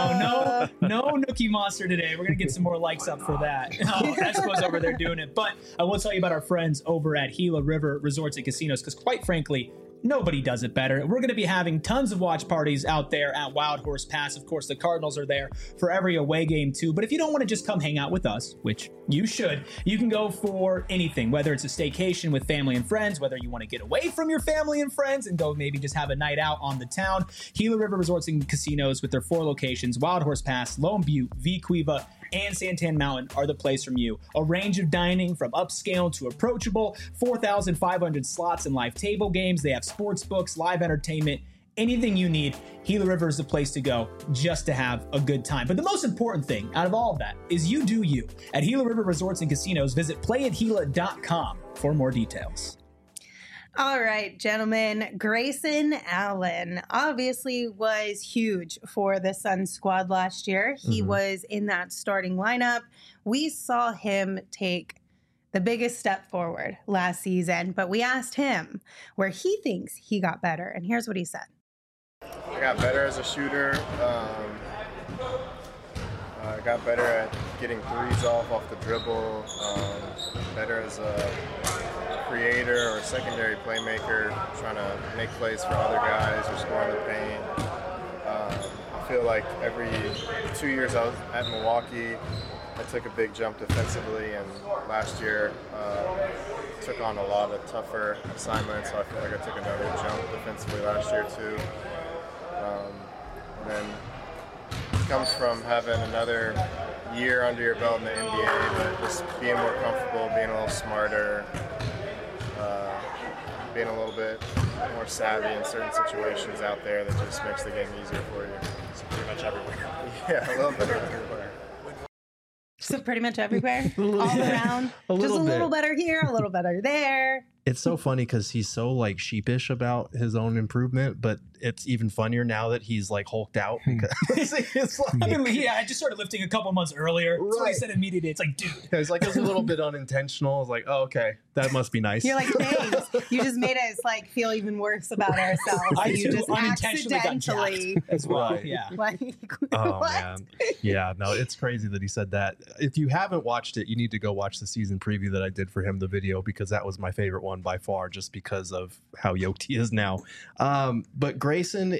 No Nookie Monster today. We're going to get some more likes up for that. Espo's over there doing it. But I will tell you about our friends over at Gila River Resorts and Casinos, because quite frankly, nobody does it better. We're going to be having tons of watch parties out there at Wild Horse Pass. Of course, the Cardinals are there for every away game too. But if you don't want to just come hang out with us, which you should, you can go for anything, whether it's a staycation with family and friends, whether you want to get away from your family and friends and go maybe just have a night out on the town. Gila River Resorts and Casinos with their 4 locations, Wild Horse Pass, Lone Butte, Vicuiva, and Santan Mountain are the place from you. A range of dining from upscale to approachable, 4,500 slots and live table games. They have sports books, live entertainment, anything you need. Gila River is the place to go just to have a good time. But the most important thing out of all of that is you do you. At Gila River Resorts and Casinos, visit playatgila.com for more details. All right, gentlemen, Grayson Allen obviously was huge for the Suns squad last year. He was in that starting lineup. We saw him take the biggest step forward last season, but we asked him where he thinks he got better, and here's what he said. I got better as a shooter. I got better at getting threes off the dribble, better as a creator or secondary playmaker, trying to make plays for other guys or score in the paint. I feel like every 2 years I was at Milwaukee, I took a big jump defensively, and last year took on a lot of tougher assignments, so I feel like I took another jump defensively last year too. And then it comes from having another year under your belt in the NBA, but just being more comfortable, being a little smarter, being a little bit more savvy in certain situations out there that just makes the game easier for you. It's pretty much everywhere. Yeah, a little bit everywhere. So pretty much everywhere, all around, just a little better here, a little better there. It's so funny because he's so like sheepish about his own improvement, but it's even funnier now that he's like hulked out. It's like, I just started lifting a couple months earlier. That's what I said immediately. It's like, dude. It's like, it was a little bit unintentional. I was like, oh, okay, that must be nice. You're like, thanks. You just made us like feel even worse about ourselves. I you just unintentionally accidentally got as well. Right. Yeah. Like, Oh what? man, yeah, no, it's crazy that he said that. If you haven't watched it, you need to go watch the season preview that I did for him, the video, because that was my favorite one by far, just because of how yoked he is now. But Grayson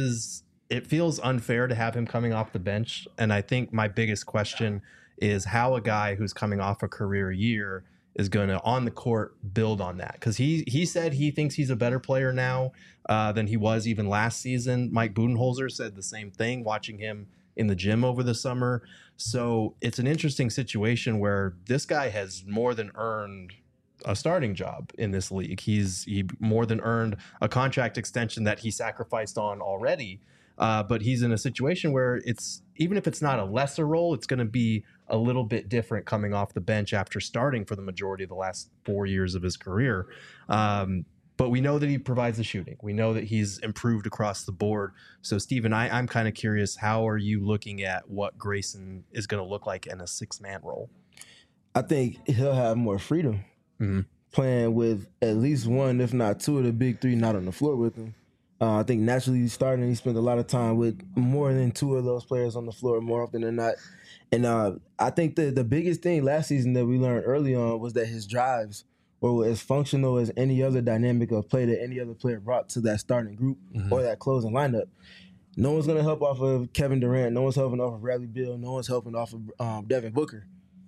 it feels unfair to have him coming off the bench, and I think my biggest question is how a guy who's coming off a career year is going to on the court build on that, because he said he thinks he's a better player now than he was even last season. Mike Budenholzer said the same thing watching him in the gym over the summer. So it's an interesting situation where this guy has more than earned a starting job in this league. He more than earned a contract extension that he sacrificed on already. But he's in a situation where it's, even if it's not a lesser role, it's going to be a little bit different coming off the bench after starting for the majority of the last 4 years of his career. But we know that he provides the shooting. We know that he's improved across the board. So, Steven, I'm kind of curious, how are you looking at what Grayson is going to look like in a 6-man role? I think he'll have more freedom playing with at least one, if not two of the big three not on the floor with him. I think naturally starting, he spent a lot of time with more than two of those players on the floor more often than not. And I think the biggest thing last season that we learned early on was that his drives or as functional as any other dynamic of play that any other player brought to that starting group or that closing lineup. No one's going to help off of Kevin Durant. No one's helping off of Bradley Beal. No one's helping off of Devin Booker.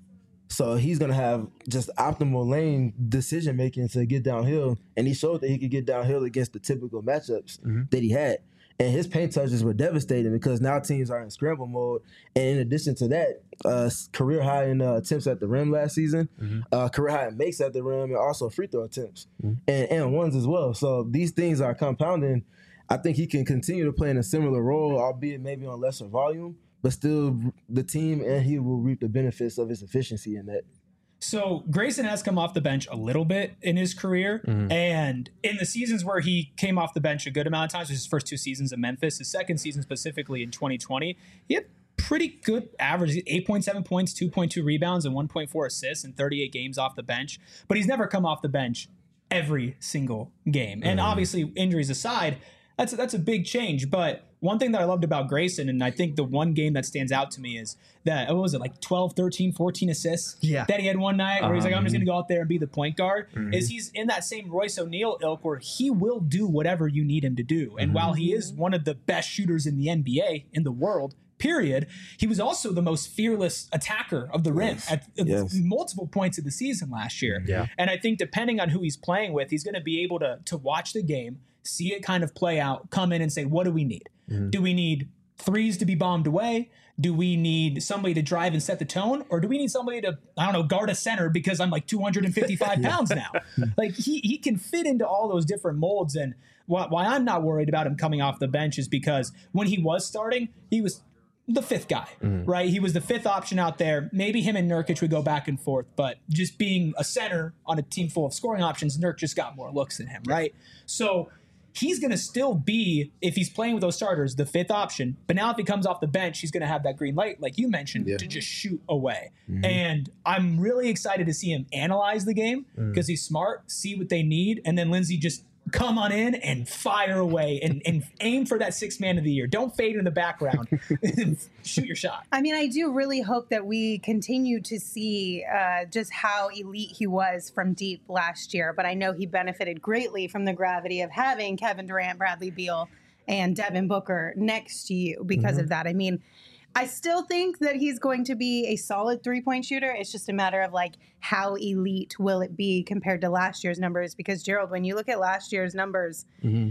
So he's going to have just optimal lane decision-making to get downhill, and he showed that he could get downhill against the typical matchups that he had. And his paint touches were devastating because now teams are in scramble mode. And in addition to that, career high in attempts at the rim last season, career high in makes at the rim, and also free throw attempts and ones as well. So these things are compounding. I think he can continue to play in a similar role, albeit maybe on lesser volume, but still the team and he will reap the benefits of his efficiency in that. So Grayson has come off the bench a little bit in his career, and in the seasons where he came off the bench a good amount of times, his first 2 seasons in Memphis, his second season specifically in 2020, he had pretty good average, 8.7 points, 2.2 rebounds, and 1.4 assists in 38 games off the bench, but he's never come off the bench every single game. And obviously, injuries aside, that's a big change. But one thing that I loved about Grayson, and I think the one game that stands out to me is that, what was it, like 12, 13, 14 assists that he had one night where he's like, I'm just going to go out there and be the point guard, is he's in that same Royce O'Neal ilk where he will do whatever you need him to do. And while he is one of the best shooters in the NBA, in the world, period, he was also the most fearless attacker of the rim at multiple points of the season last year. And I think depending on who he's playing with, he's going to be able to watch the game, see it kind of play out, come in and say, what do we need? Do we need threes to be bombed away? Do we need somebody to drive and set the tone? Or do we need somebody to, I don't know, guard a center because I'm like 255 pounds now? Like he can fit into all those different molds. And why I'm not worried about him coming off the bench is because when he was starting, he was the fifth guy, right? He was the fifth option out there. Maybe him and Nurkic would go back and forth, but just being a center on a team full of scoring options, Nurk just got more looks than him, right? So he's going to still be, if he's playing with those starters, the fifth option. But now if he comes off the bench, he's going to have that green light, like you mentioned, to just shoot away. And I'm really excited to see him analyze the game because he's smart, see what they need, and then Lindsay just come on in and fire away and aim for that sixth man of the year. Don't fade in the background. Shoot your shot. I mean, I do really hope that we continue to see just how elite he was from deep last year. But I know he benefited greatly from the gravity of having Kevin Durant, Bradley Beal, and Devin Booker next to you because of that. I mean, I still think that he's going to be a solid three-point shooter. It's just a matter of like how elite will it be compared to last year's numbers? Because Gerald, when you look at last year's numbers,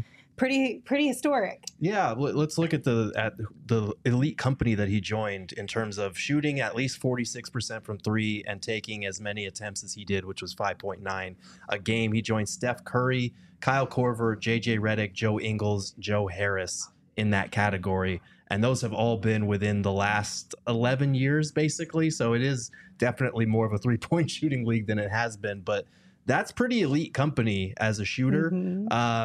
pretty historic. Yeah, let's look at the elite company that he joined in terms of shooting at least 46% from three and taking as many attempts as he did, which was 5.9 a game. He joined Steph Curry, Kyle Korver, JJ Redick, Joe Ingles, Joe Harris in that category. And those have all been within the last 11 years, basically. So it is definitely more of a three-point shooting league than it has been. But that's pretty elite company as a shooter. And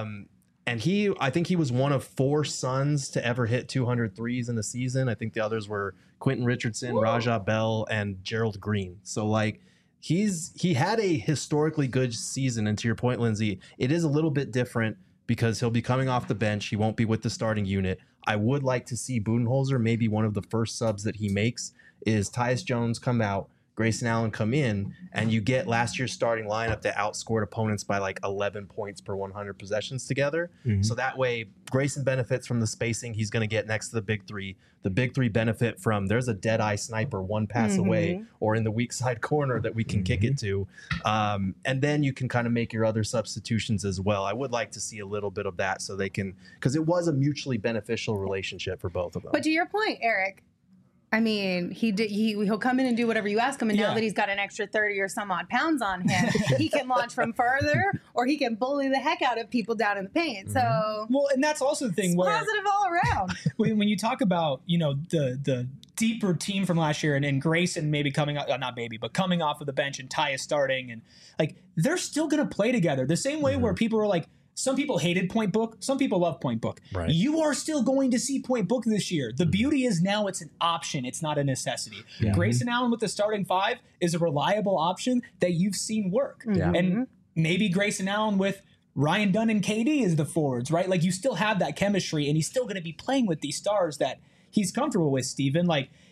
I think he was one of 4 Suns to ever hit 200 threes in a season. I think the others were Quentin Richardson, Rajah Bell, and Gerald Green. So like he had a historically good season. And to your point, Lindsay, it is a little bit different because he'll be coming off the bench. He won't be with the starting unit. I would like to see Budenholzer, maybe one of the first subs that he makes is Tyus Jones come out, Grayson Allen come in, and you get last year's starting lineup that outscored opponents by like 11 points per 100 possessions together. So that way, Grayson benefits from the spacing he's going to get next to the big three. The big three benefit from there's a dead-eye sniper one pass away or in the weak side corner that we can kick it to. And then you can kind of make your other substitutions as well. I would like to see a little bit of that so they can, because it was a mutually beneficial relationship for both of them. But to your point, Eric, I mean, he'll come in and do whatever you ask him, and now that he's got an extra 30 or some odd pounds on him, he can launch from further, or he can bully the heck out of people down in the paint. So, well, and that's also the thing it's where positive all around. when you talk about the deeper team from last year and Grayson maybe coming out, but coming off of the bench and Tyus starting, and like they're still gonna play together the same way where people are like. Some people hated Point Book. Some people love Point Book. Right. You are still going to see Point Book this year. The beauty is now it's an option. It's not a necessity. Grayson Allen with the starting 5 is a reliable option that you've seen work. And maybe Grayson Allen with Ryan Dunn and KD as the forwards, right? Like you still have that chemistry, and he's still going to be playing with these stars that he's comfortable with, Steven. Like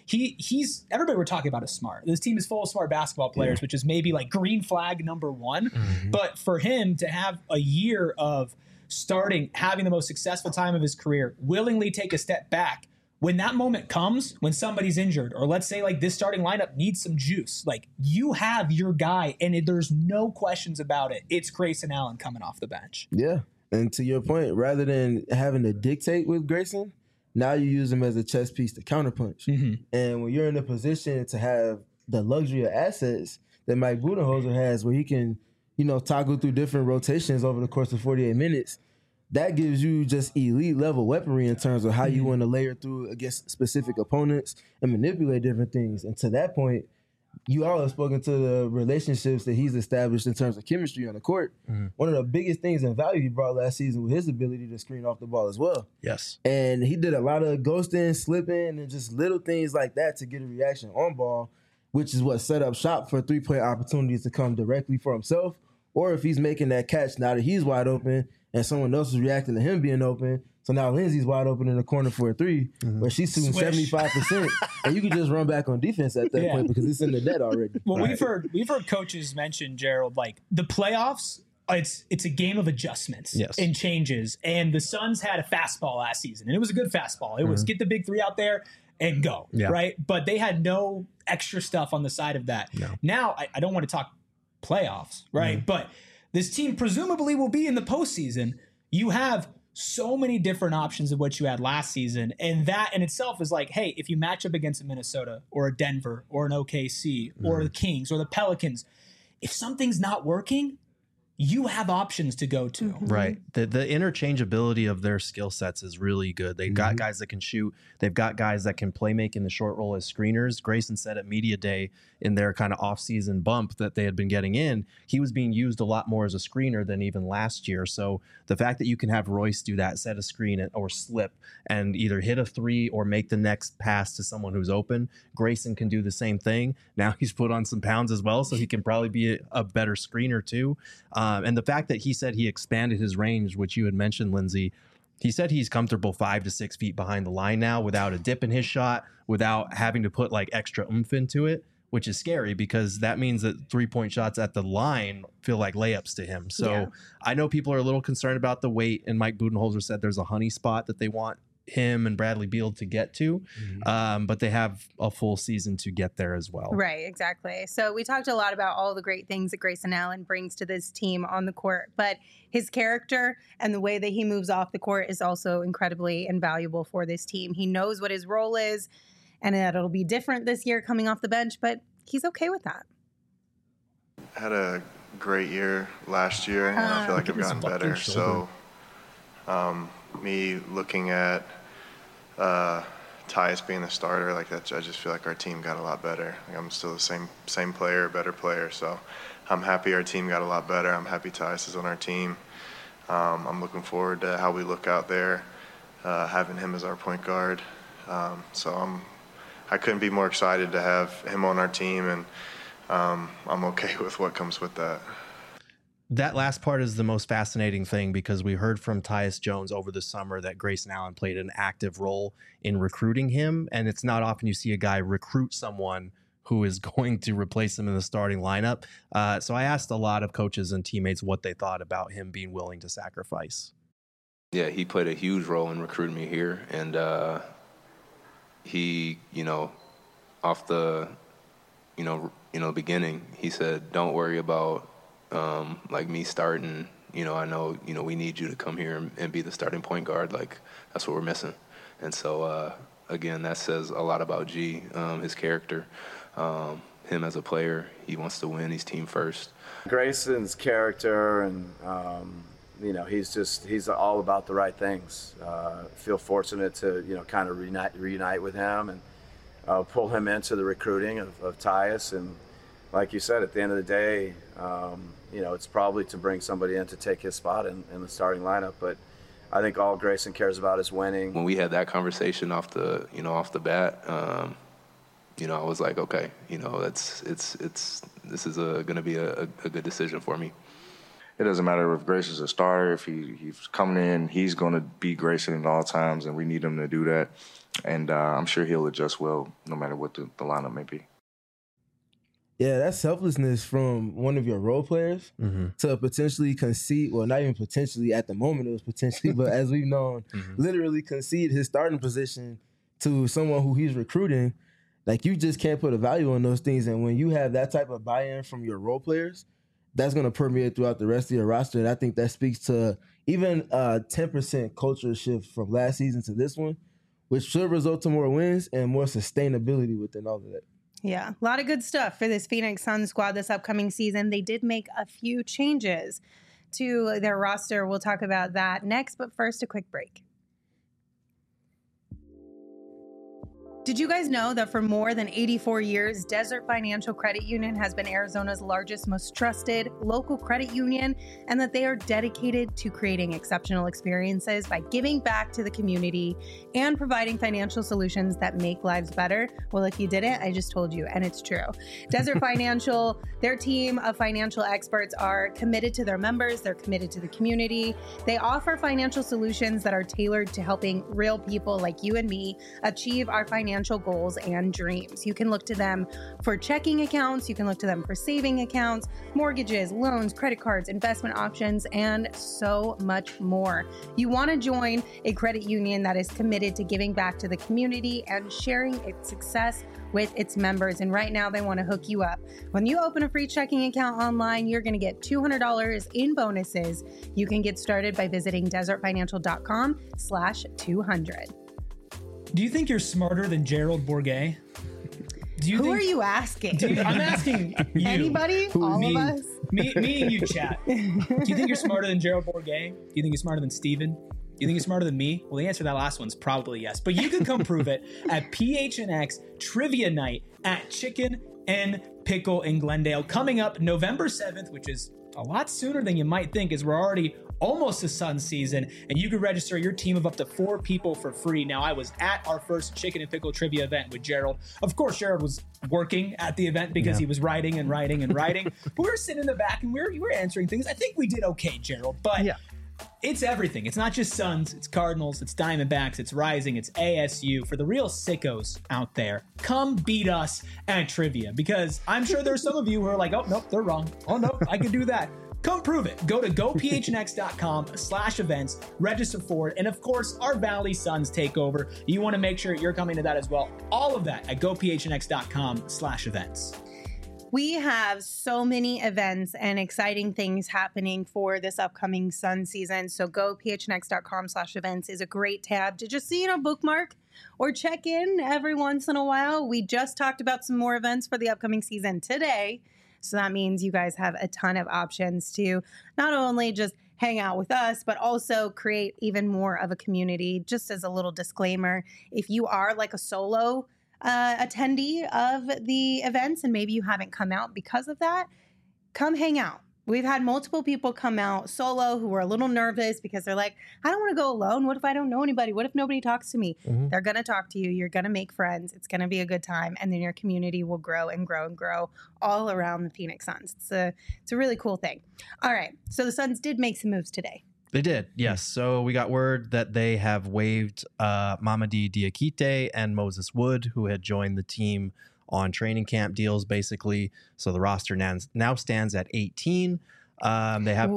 he's everybody we're talking about is smart. This team is full of smart basketball players, which is maybe like green flag number one. But for him to have a year of having the most successful time of his career, willingly take a step back, when that moment comes, when somebody's injured, or let's say like this starting lineup needs some juice, like you have your guy, and there's no questions about it. It's Grayson Allen coming off the bench. Yeah. And to your point, rather than having to dictate with Grayson, now you use him as a chess piece to counterpunch. And when you're in a position to have the luxury of assets that Mike Budenholzer has, where he can, toggle through different rotations over the course of 48 minutes, that gives you just elite level weaponry in terms of how you want to layer through against specific opponents and manipulate different things. And to that point, you all have spoken to the relationships that he's established in terms of chemistry on the court. One of the biggest things in value he brought last season was his ability to screen off the ball as well. Yes. And he did a lot of ghosting, slipping, and just little things like that to get a reaction on ball, which is what set up shop for three-point opportunities to come directly for himself. Or if he's making that catch now that he's wide open and someone else is reacting to him being open, so now Lindsay's wide open in the corner for a three, where she's shooting 75%, and you can just run back on defense at that point because it's in the net already. Well, we've heard coaches mention, Gerald, like the playoffs, it's a game of adjustments and changes. And the Suns had a fastball last season, and it was a good fastball. It was get the big three out there and go, right? But they had no extra stuff on the side of that. Now, I don't want to talk playoffs, right? But this team presumably will be in the postseason. You have so many different options of what you had last season. And that in itself is like, hey, if you match up against a Minnesota or a Denver or an OKC or the Kings or the Pelicans, if something's not working, you have options to go to. Right. The interchangeability of their skill sets is really good. They've got guys that can shoot. They've got guys that can play make in the short roll as screeners. Grayson said at Media Day in their kind of off-season bump that they had been getting in, he was being used a lot more as a screener than even last year. So the fact that you can have Royce do that, set a screen or slip and either hit a three or make the next pass to someone who's open, Grayson can do the same thing. Now he's put on some pounds as well, so he can probably be a better screener too. And the fact that he said he expanded his range, which you had mentioned, Lindsay, he said he's comfortable 5 to 6 feet behind the line now without a dip in his shot, without having to put like extra oomph into it, which is scary because that means that 3-point shots at the line feel like layups to him. So I know people are a little concerned about the weight, and Mike Budenholzer said there's a honey spot that they want him and Bradley Beal to get to, but they have a full season to get there as well. Right, exactly. So we talked a lot about all the great things that Grayson Allen brings to this team on the court, but his character and the way that he moves off the court is also incredibly invaluable for this team. He knows what his role is, and that it'll be different this year coming off the bench, but he's okay with that. Had a great year last year, and I feel like I've gotten better. So me looking at Tyus being the starter, like that, I just feel like our team got a lot better. Like I'm still the same player, better player. So I'm happy our team got a lot better. I'm happy Tyus is on our team. I'm looking forward to how we look out there, having him as our point guard. So I couldn't be more excited to have him on our team, and I'm okay with what comes with that. That last part is the most fascinating thing because we heard from Tyus Jones over the summer that Grayson Allen played an active role in recruiting him. And it's not often you see a guy recruit someone who is going to replace him in the starting lineup. So I asked a lot of coaches and teammates what they thought about him being willing to sacrifice. Yeah, he played a huge role in recruiting me here. And he, off the, beginning, he said, don't worry about like me starting, I know, we need you to come here and be the starting point guard. Like, that's what we're missing. And so, again, that says a lot about G, his character, him as a player. He wants to win. He's team first. Grayson's character and, he's all about the right things. Feel fortunate to, kind of reunite with him and pull him into the recruiting of Tyus. And like you said, at the end of the day, it's probably to bring somebody in to take his spot in the starting lineup. But I think all Grayson cares about is winning. When we had that conversation off the bat, I was like, okay, this is going to be a good decision for me. it doesn't matter if Grayson is a starter, if he's coming in, he's going to be Grayson at all times, and we need him to do that. And I'm sure he'll adjust well no matter what the lineup may be. Yeah, that's selflessness from one of your role players to potentially concede, well, not even potentially, at the moment it was potentially, but as we've known, literally concede his starting position to someone who he's recruiting. Like, you just can't put a value on those things. And when you have that type of buy-in from your role players, that's going to permeate throughout the rest of your roster. And I think that speaks to even a 10% culture shift from last season to this one, which should result to more wins and more sustainability within all of that. Yeah, a lot of good stuff for this Phoenix Suns squad this upcoming season. They did make a few changes to their roster. We'll talk about that next, but first, a quick break. Did you guys know that for more than 84 years, Desert Financial Credit Union has been Arizona's largest, most trusted local credit union, and that they are dedicated to creating exceptional experiences by giving back to the community and providing financial solutions that make lives better? Well, if you didn't, I just told you, and it's true. Desert Financial, their team of financial experts are committed to their members. They're committed to the community. They offer financial solutions that are tailored to helping real people like you and me achieve our financial goals and dreams. You can look to them for checking accounts. You can look to them for saving accounts, mortgages, loans, credit cards, investment options, and so much more. You want to join a credit union that is committed to giving back to the community and sharing its success with its members. And right now they want to hook you up. When you open a free checking account online, you're going to get $200 in bonuses. You can get started by visiting desertfinancial.com/200. Do you think you're smarter than Gerald Bourguet? Who are you asking? I'm asking you. Anybody? All of us? Me and you, chat. Do you think you're smarter than Gerald Bourguet? Do you think you're smarter than Steven? Do you think you're smarter than me? Well, the answer to that last one's probably yes. But you can come prove it at PHNX Trivia Night at Chicken and Pickle in Glendale, coming up November 7th, which is a lot sooner than you might think, as we're already almost to Suns season, and you can register your team of up to 4 people for free. Now, I was at our first Chicken and Pickle trivia event with Gerald. Of course, Gerald was working at the event because he was writing. But we were sitting in the back and we were answering things. I think we did okay, Gerald, but it's everything. It's not just Suns, it's Cardinals, it's Diamondbacks, it's Rising, it's ASU. For the real sickos out there, come beat us at trivia, because I'm sure there's some of you who are like, oh, nope, they're wrong. Oh, nope, I can do that. Come prove it. Go to gophnx.com/events, register for it. And of course, our Valley Suns takeover. You want to make sure you're coming to that as well. All of that at gophnx.com/events. We have so many events and exciting things happening for this upcoming Sun season. So gophnx.com/events is a great tab to just, bookmark or check in every once in a while. We just talked about some more events for the upcoming season today. So that means you guys have a ton of options to not only just hang out with us, but also create even more of a community. Just as a little disclaimer, if you are like a solo attendee of the events and maybe you haven't come out because of that, come hang out. We've had multiple people come out solo who were a little nervous because they're like, I don't want to go alone. What if I don't know anybody? What if nobody talks to me? They're going to talk to you. You're going to make friends. It's going to be a good time. And then your community will grow and grow and grow all around the Phoenix Suns. It's a really cool thing. All right. So the Suns did make some moves today. They did, yes. So we got word that they have waived Mamadi Diakite and Moses Wood, who had joined the team on training camp deals, basically. So the roster now stands at 18. They have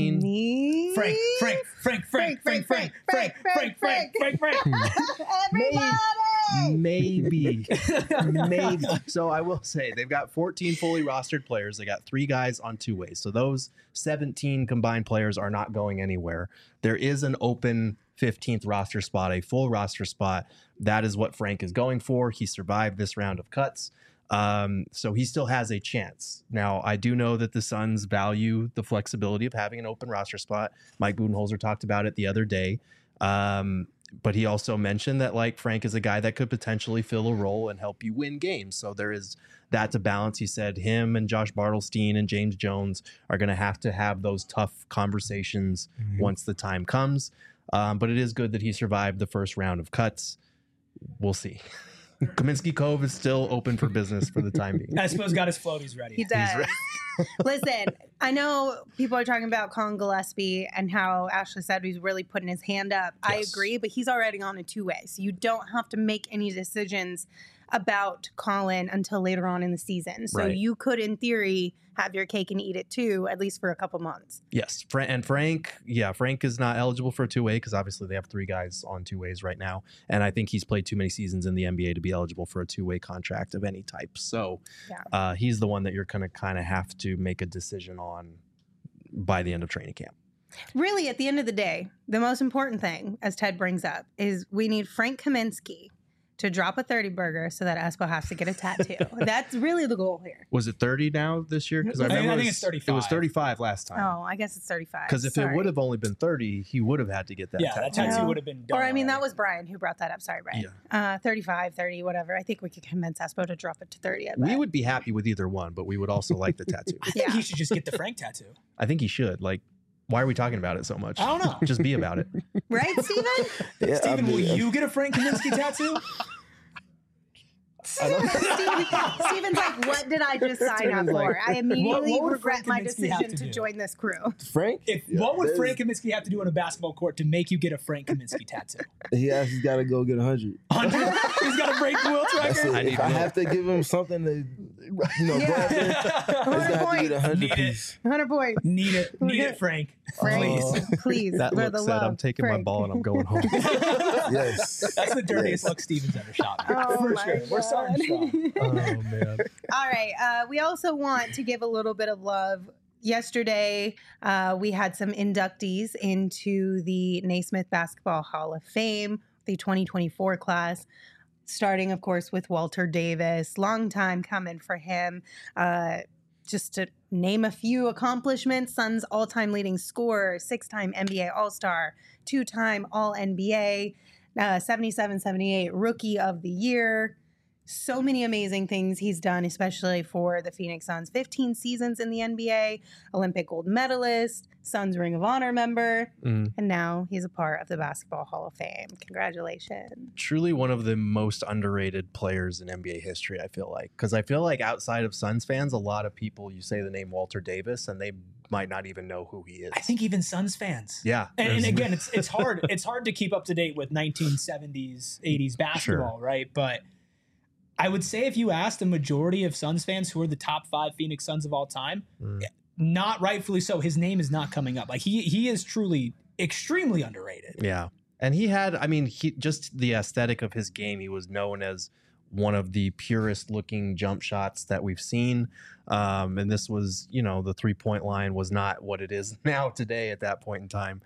14. Frank. Maybe. So I will say they've got 14 fully rostered players. They got 3 guys on 2-ways. So those 17 combined players are not going anywhere. There is an open 15th roster spot, a full roster spot. That is what Frank is going for. He survived this round of cuts. So he still has a chance. Now, I do know that the Suns value the flexibility of having an open roster spot. Mike Budenholzer talked about it the other day. But he also mentioned that Frank is a guy that could potentially fill a role and help you win games. So there is that to balance. He said him and Josh Bartelstein and James Jones are going to have those tough conversations once the time comes. But it is good that he survived the first round of cuts. We'll see. Kaminsky Cove is still open for business for the time being. I suppose got his floaties ready. He does. Listen, I know people are talking about Colin Gillespie and how Ashley said he's really putting his hand up. I agree, but he's already on a two-way, so you don't have to make any decisions about Colin until later on in the season. So you could, in theory, have your cake and eat it too, at least for a couple months. Yes. And Frank is not eligible for a two-way because obviously they have 3 guys on two-ways right now. And I think he's played too many seasons in the NBA to be eligible for a two-way contract of any type. So he's the one that you're going to kind of have to make a decision on by the end of training camp. Really, at the end of the day, the most important thing, as Ted brings up, is we need Frank Kaminsky to drop a 30 burger so that Espo has to get a tattoo. That's really the goal here. Was it 30 now this year? Because I think it's 35. It was 35 last time. Oh, I guess it's 35. Because if it would have only been 30, he would have had to get that tattoo. That tattoo would have been done. Or, I mean, that was Brian who brought that up. Sorry, Brian. 35, 30, whatever. I think we could convince Espo to drop it to 30. We would be happy with either one, but we would also like the tattoo. I think he should just get the Frank tattoo. I think he should. Like, why are we talking about it so much? I don't know. Just be about it. Right, Steven? Steven, will you get a Frank Kaminsky tattoo? Steven's like, what did I just sign up for? I immediately regret my decision to join this crew. Frank? What would Frank Kaminsky have to do on a basketball court to make you get a Frank Kaminsky tattoo? He's got to go get 100. 100? He's got to break Wilt's record? If I have to give him something to, go out there, he's got to get 100 piece. 100 points. Need it, Frank. Please. That look said, I'm taking my ball and I'm going home. Yes. That's the dirtiest look Steven's ever shot. For sure. God. We're starting strong. Oh, man. All right. We also want to give a little bit of love. Yesterday, we had some inductees into the Naismith Basketball Hall of Fame, the 2024 class, starting, of course, with Walter Davis. Long time coming for him. Just to name a few accomplishments, Suns all-time leading scorer, 6-time NBA All-Star, 2-time All-NBA, 77-78 Rookie of the Year. So many amazing things he's done, especially for the Phoenix Suns. 15 seasons in the NBA, Olympic gold medalist, Suns Ring of Honor member, and now he's a part of the Basketball Hall of Fame. Congratulations. Truly one of the most underrated players in NBA history, I feel like. Because I feel like outside of Suns fans, a lot of people, you say the name Walter Davis, and they might not even know who he is. I think even Suns fans. Yeah. And again, it's hard. It's hard to keep up to date with 1970s, 80s basketball, right? But I would say if you asked a majority of Suns fans who are the top 5 Phoenix Suns of all time, not rightfully so, his name is not coming up. Like he is truly extremely underrated. Yeah. And he had, I mean, just the aesthetic of his game, he was known as one of the purest looking jump shots that we've seen. And this was, the 3-point line was not what it is now today at that point in time.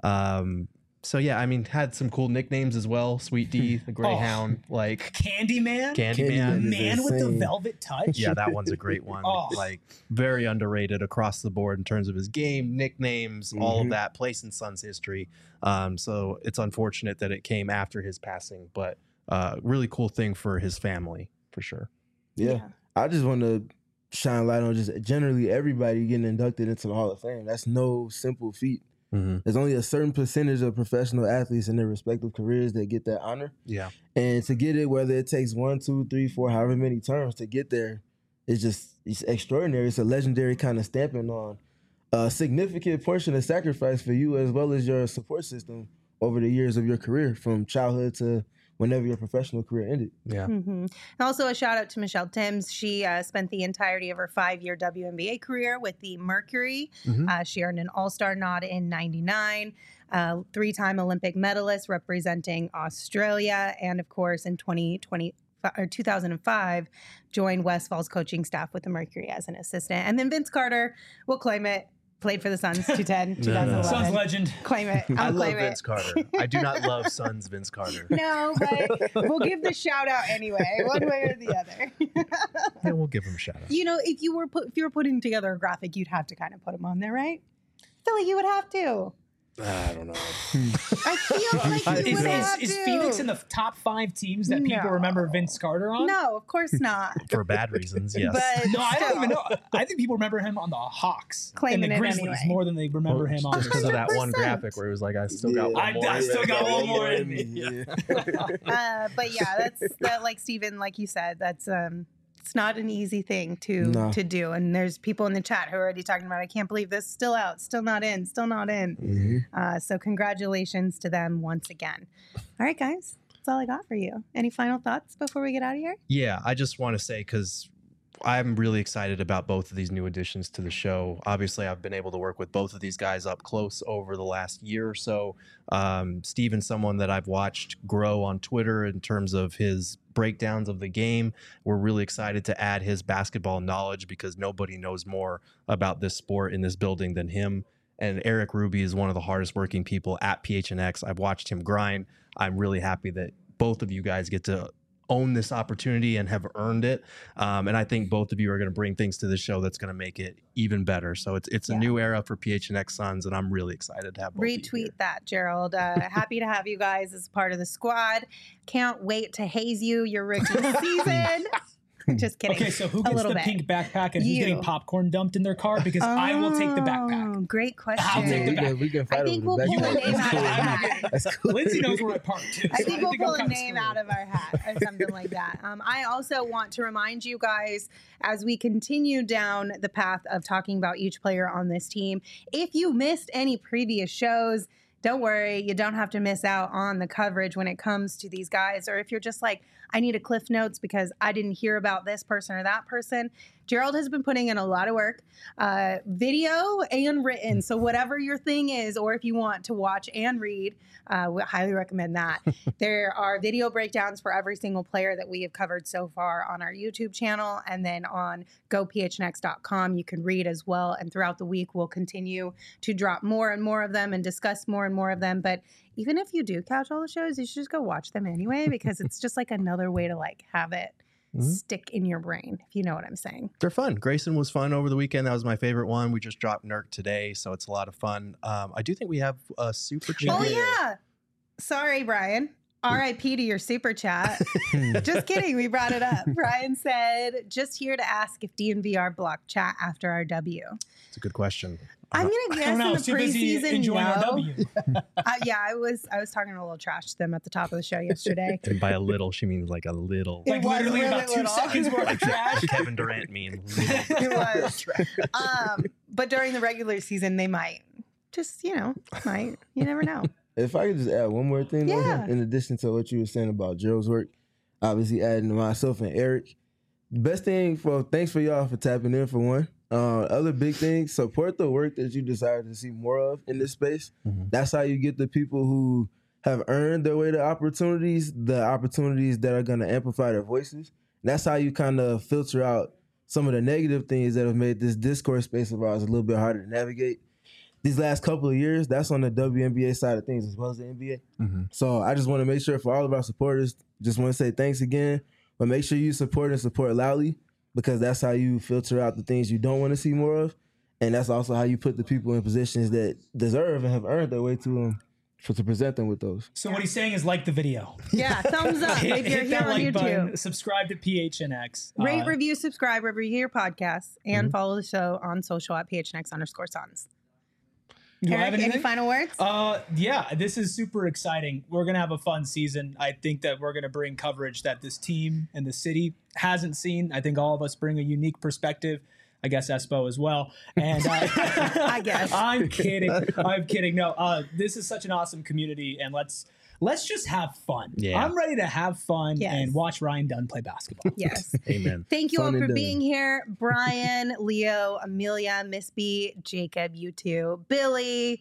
So yeah, I mean, had some cool nicknames as well. Sweet D, the Greyhound, like Candyman, Man with the Velvet Touch. Yeah, that one's a great one. Like very underrated across the board in terms of his game, nicknames, all of that. Place in Suns history. So it's unfortunate that it came after his passing, but really cool thing for his family for sure. Yeah, I just want to shine light on just generally everybody getting inducted into the Hall of Fame. That's no simple feat. There's only a certain percentage of professional athletes in their respective careers that get that honor. Yeah. And to get it, whether it takes 1, 2, 3, 4, however many terms to get there, it's extraordinary. It's a legendary kind of stamping on a significant portion of sacrifice for you as well as your support system over the years of your career, from childhood to whenever your professional career ended. Yeah. And also a shout out to Michelle Timms. She spent the entirety of her 5-year WNBA career with the Mercury. She earned an All-Star nod in '99, 3-time Olympic medalist representing Australia, and of course in 2005 joined Westfall's coaching staff with the Mercury as an assistant. And then Vince Carter, we'll claim it, played for the Suns 2011. Suns legend. Claim it. I love Vince Carter. I do not love Suns Vince Carter. No, but we'll give the shout out anyway, one way or the other. Yeah, we'll give him a shout out. If you were putting together a graphic, you'd have to kind of put him on there, right? I feel like you would have to. I don't know. I feel like you would have to. Is Phoenix in the top 5 teams that people remember Vince Carter on? No, of course not. For bad reasons, yes. But no, I don't even know. I think people remember him on the Hawks Claiming and the Grizzlies anyway. more than they remember him on just because of that one graphic where it was like, I still got one more. I still got one more in me. But yeah, that's like Steven, like you said, that's It's not an easy thing to do. And there's people in the chat who are already talking about, I can't believe this, still out, still not in. So congratulations to them once again. All right, guys, that's all I got for you. Any final thoughts before we get out of here? Yeah, I just want to say, because I'm really excited about both of these new additions to the show. Obviously, I've been able to work with both of these guys up close over the last year or so. Steven's someone that I've watched grow on Twitter in terms of his breakdowns of the game. We're really excited to add his basketball knowledge because nobody knows more about this sport in this building than him. And Eric Ruby is one of the hardest working people at PHNX. I've watched him grind. I'm really happy that both of you guys get to own this opportunity and have earned it. And I think both of you are going to bring things to the show that's going to make it even better. So it's a new era for PHNX Suns, and I'm really excited to have both Retweet that, Gerald. Happy to have you guys as part of the squad. Can't wait to haze you your rookie season. Just kidding. Okay, so who gets the pink backpack and who's getting popcorn dumped in their car? Because I will take the backpack. Great question. I'll take the backpack. We can fight I think over we'll the pull a backpack. name out of our hat. That's cool. Lindsay knows where I park too. I think we'll I'm pull a kinda name out of our hat or something like that. I also want to remind you guys, as we continue down the path of talking about each player on this team, if you missed any previous shows, don't worry, you don't have to miss out on the coverage when it comes to these guys. Or if you're just like, I need a Cliff Notes because I didn't hear about this person or that person, Gerald has been putting in a lot of work, video and written. So whatever your thing is, or if you want to watch and read, we highly recommend that. There are video breakdowns for every single player that we have covered so far on our YouTube channel. And then on gophnx.com, you can read as well. And throughout the week, we'll continue to drop more and more of them and discuss more and more of them. But even if you do catch all the shows, you should just go watch them anyway, because it's just like another way to like have it stick in your brain, if you know what I'm saying. They're fun. Grayson was fun over the weekend. That was my favorite one. We just dropped Nurk today, so it's a lot of fun. I do think we have a super chat. Oh, yeah. Sorry, Brian. RIP to your super chat. Just kidding. We brought it up. Brian said, just here to ask if DNVR blocked chat after our W. It's a good question. I'm gonna guess in the preseason, our W. Yeah, I was talking a little trash to them at the top of the show yesterday. And by a little, she means like a little. Like literally really about 2 little. seconds worth of trash. Kevin Durant means. It was. But during the regular season, they might. Just, might. You never know. If I could just add one more thing, Yeah. in addition to what you were saying about Gerald's work, obviously adding myself and Eric. The best thing thanks for y'all for tapping in for one. Other big things, support the work that you desire to see more of in this space. That's how you get the people who have earned their way to opportunities, the opportunities that are going to amplify their voices. That's how you kind of filter out some of the negative things that have made this discourse space of ours a little bit harder to navigate. These last couple of years, that's on the WNBA side of things as well as the NBA. So I just want to make sure for all of our supporters, just want to say thanks again, but make sure you support and support loudly, because that's how you filter out the things you don't want to see more of. And that's also how you put the people in positions that deserve and have earned their way to them to present them with those. So what he's saying is like the video. Yeah, thumbs up if you're Hit here that on like YouTube. button, subscribe to PHNX. Rate, review, subscribe wherever you hear your podcasts, and follow the show on social at PHNX_Suns. Do I have Eric, any anything? final words? Yeah, this is super exciting. We're going to have a fun season. I think that we're going to bring coverage that this team and the city hasn't seen. I think all of us bring a unique perspective. I guess Espo as well. And I guess. I'm kidding. I'm kidding. No, this is such an awesome community, and let's just have fun. Yeah. I'm ready to have fun Yes. and watch Ryan Dunn play basketball. Yes. Amen. Thank you Fun all and for done. being here. Brian, Leo, Amelia, Miss B, Jacob, you two, Billy,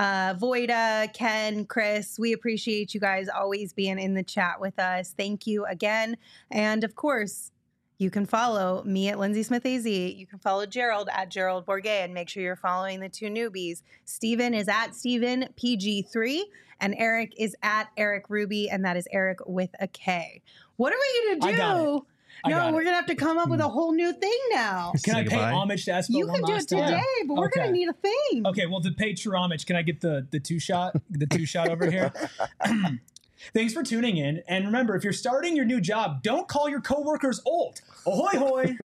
Voida, Ken, Chris. We appreciate you guys always being in the chat with us. Thank you again. And of course, you can follow me at Lindsay Smith AZ. You can follow Gerald at Gerald Bourget, and make sure you're following the two newbies. Steven is at Steven PG3, and Eric is at Eric Ruby, and that is Eric with a K. What are we going to do? I got it. I No, got we're it. going to have to come up with a whole new thing now. Can I Say pay goodbye. homage to Espo You one can do it last time? today, but we're going to Okay. need a thing. Okay, well, to pay true homage, can I get the two shot over here? Thanks for tuning in. And remember, if you're starting your new job, don't call your coworkers old. Ahoy, hoy.